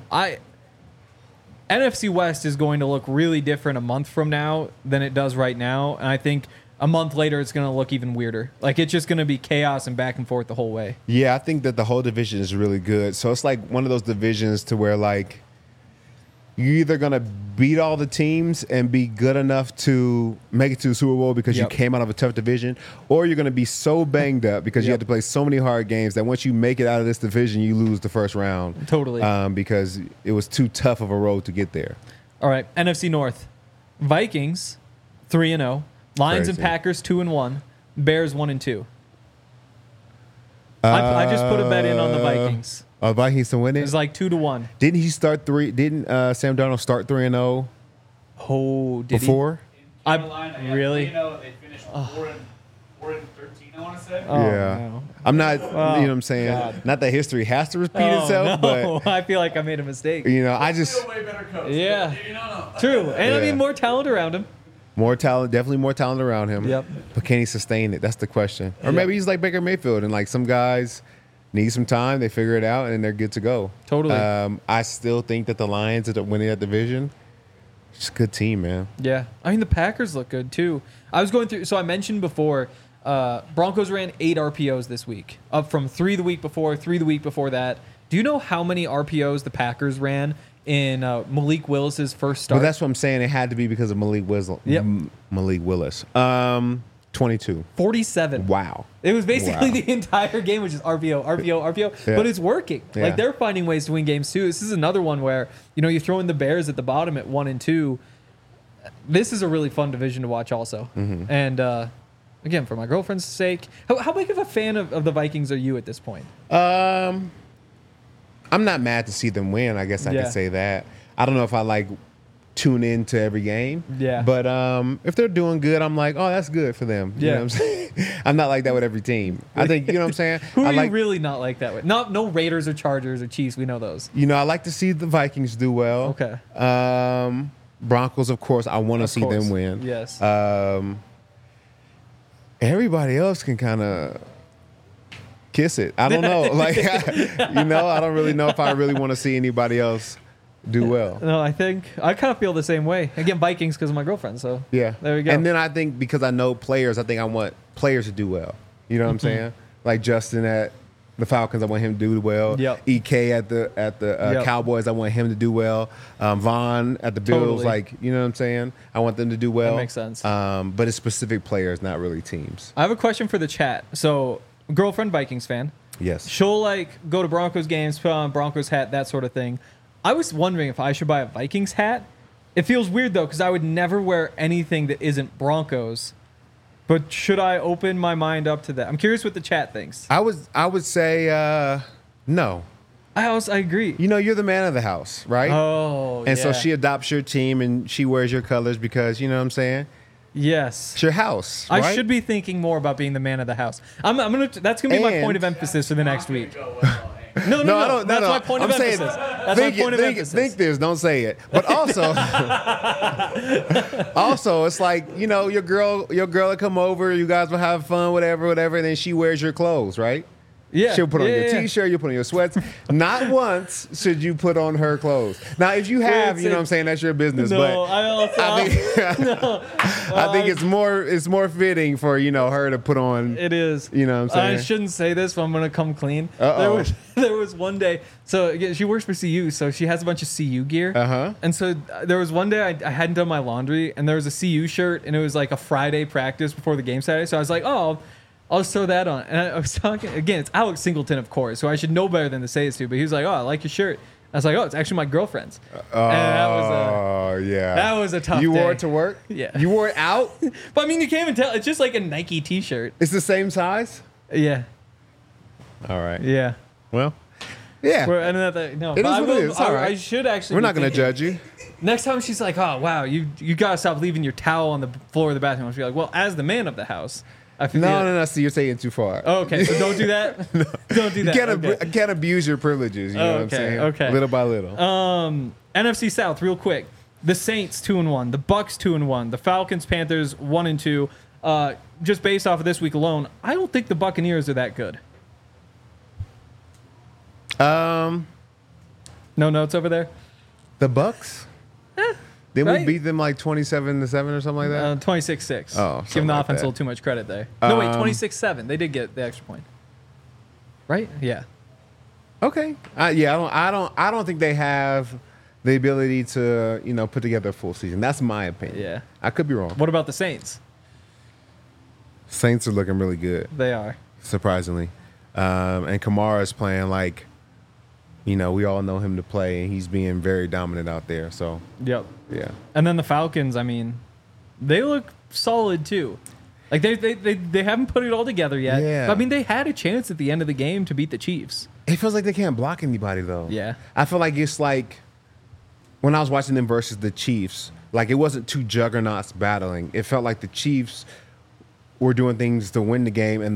NFC West is going to look really different a month from now than it does right now. And I think a month later, it's going to look even weirder. It's just going to be chaos and back and forth the whole way. Yeah, I think that the whole division is really good. So it's like one of those divisions to where, you're either going to beat all the teams and be good enough to make it to the Super Bowl because you came out of a tough division, or you're going to be so banged up because you have to play so many hard games that once you make it out of this division, you lose the first round. Totally. Because it was too tough of a road to get there. All right, NFC North. Vikings, 3-0. Lions and Packers, 2-1. Bears, 1-2. I just put a bet in on the Vikings. Vikings to win it? It was 2-1. Didn't he start 3? Didn't Sam Darnold start 3-0? Oh, did before? Really? They finished 4-13, I want to say. Oh, yeah. no. I'm not, you know what I'm saying? God. Not that history has to repeat itself, but I feel like I made a mistake. I just Still way better coach. Yeah. No. True. And Yeah. more talent around him. more talent, definitely more talent around him. Yep. But can he sustain it? That's the question. Or maybe he's like Baker Mayfield and some guys need some time, they figure it out, and they're good to go. Totally. I still think that the Lions are winning that division. It's a good team, man. Yeah. The Packers look good, too. I was going through, so I mentioned before, Broncos ran 8 RPOs this week, up from 3 the week before, 3 the week before that. Do you know how many RPOs the Packers ran in Malik Willis's first start? Well, that's what I'm saying. It had to be because of Malik Willis. 22. 47. Wow. It was basically the entire game, which is RPO. Yeah. But it's working. Yeah. They're finding ways to win games too. This is another one where, you throw in the Bears at the bottom at 1 and 2. This is a really fun division to watch also. Mm-hmm. And again, for my girlfriend's sake, how big of a fan of the Vikings are you at this point? I'm not mad to see them win. I guess I could say that. I don't know if I like tune into every game. Yeah. But if they're doing good, I'm like, oh, that's good for them. You Yeah. know what I'm saying? I'm not like that with every team. I think, you know what I'm saying? Who I are like, you really not like that with? No Raiders or Chargers or Chiefs. We know those. you know, I like to see the Vikings do well. Okay. Broncos, of course, I want to see course. them win. Yes. Everybody else can kind of kiss it. I don't know. Like, you know, I don't really know if I really want to see anybody else do well. No, I think I kind of feel the same way. Again, Vikings because of my girlfriend. So Yeah. there we go. And then I think because I know players, I think I want players to do well. You know what I'm saying? Like Justin at the Falcons, I want him to do well. Yep. EK at the Yep. Cowboys, I want him to do well. Vaughn at the Bills, Totally. like, you know what I'm saying? I want them to do well. makes sense. But it's specific players, not really teams. I have a question for the chat. So, girlfriend Vikings fan. Yes. She'll like go to Broncos games, put on Broncos hat, that sort of thing. I was wondering if I should buy a Vikings hat. It feels weird though because I would never wear anything that isn't Broncos. But should I open my mind up to that? I'm curious what the chat thinks. I would say no. I agree. You know, you're the man of the house, right? Oh, and so yeah. she adopts your team and she wears your colors because, you know what I'm saying? Yes. It's your house, right? I should be thinking more about being the man of the house. That's gonna be my And- point of emphasis for the next week. Go well, hey. No, No, I don't. That's no, my point I'm of saying, emphasis. That's my point of emphasis. Think this. Don't say it. But also, also, it's like, you know, your girl will come over. You guys will have fun, whatever. And then she wears your clothes, right? Yeah. She'll put on yeah, your yeah. T-shirt. You put on your sweats. Not once should you put on her clothes. Now, if you have, you know what I'm saying, that's your business. No, but I also. I think it's more fitting for, you know, her to put on. It is. You know what I'm saying? I shouldn't say this, but I'm gonna come clean. Uh-oh. There was one day. So again, she works for CU, so she has a bunch of CU gear. Uh-huh. And so there was one day I hadn't done my laundry, and there was a CU shirt, and it was like a Friday practice before the game Saturday. So I was like, oh, I'll just throw that on. And I was talking again. It's Alex Singleton, of course, so I should know better than to say this to. But he was like, oh, I like your shirt. I was like, oh, it's actually my girlfriend's. And Oh, yeah. that was a tough You day. wore it to work? Yeah. You wore it out? But I mean, you can't even tell. It's just like a Nike T-shirt. It's the same size? Yeah. All right. Yeah. Well, yeah. No, It but is I what it will- is. It's all right. I should actually. We're be not going to thinking- judge you. Next time she's like, "Oh wow, you gotta stop leaving your towel on the floor of the bathroom." I'll be like, "Well, as the man of the house, I feel." No. See, you're saying too far. Oh, okay, so don't do that. Don't do You that. can't abuse your privileges. You know what I'm Okay, saying? okay. Little by little. NFC South, real quick. The Saints 2-1, the Bucks 2-1, the Falcons, Panthers 1-2. Just based off of this week alone, I don't think the Buccaneers are that good. No notes over there. The Bucks? Didn't right? we beat them like 27-7 or something like that? 26-6. Oh, Giving something the like offense that. a little too much credit there. No, wait, 26-7. They did get the extra point. Right? Yeah. Okay. Yeah, I don't think they have the ability to, you know, put together a full season. That's my opinion. Yeah. I could be wrong. What about the Saints? Saints are looking really good, They are. surprisingly. And Kamara's playing like, you know, we all know him to play, and he's being very dominant out there. So, Yep. yeah. And then the Falcons, I mean, they look solid too. Like they haven't put it all together yet. Yeah. But, I mean, they had a chance at the end of the game to beat the Chiefs. It feels like they can't block anybody, though. Yeah. I feel like it's like when I was watching them versus the Chiefs, like it wasn't two juggernauts battling. It felt like the Chiefs were doing things to win the game, and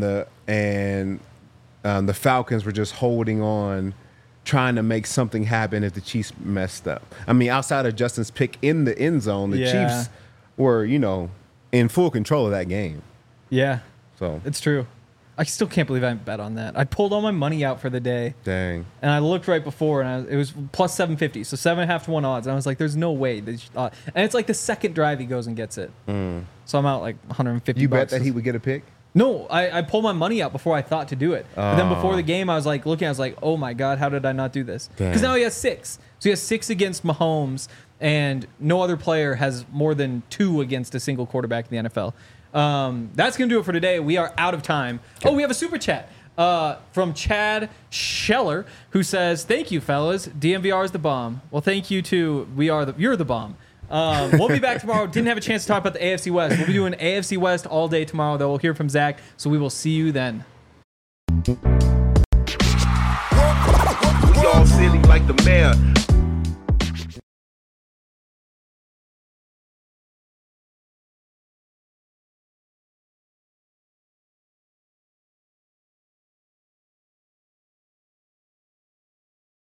the Falcons were just holding on, trying to make something happen if the Chiefs messed up. I mean, outside of Justin's pick in the end zone, the Yeah. Chiefs were, you know, in full control of that game. Yeah, So, it's true. I still can't believe I didn't bet on that. I pulled all my money out for the day, dang. and I looked right before, and it was plus 750, so 7.5 to 1 odds. And I was like, "There's no way." And it's like the second drive he goes and gets it. So I'm out like 150. You bet bucks. that he would get a pick? No, I pulled my money out before I thought to do it. But then before the game, I was like looking. I was like, "Oh my god, how did I not do this?" Because Dang. now he has 6. So he has 6 against Mahomes, and no other player has more than 2 against a single quarterback in the NFL. That's gonna do it for today. We are out of time. Oh, we have a super chat from Chad Scheller, who says, "Thank you, fellas. DMVR is the bomb." Well, thank you too. You're the bomb. We'll be back tomorrow. Didn't have a chance to talk about the AFC West. We'll be doing AFC West all day tomorrow, though. We'll hear from Zach, so we will see you then. We all silly like the mayor.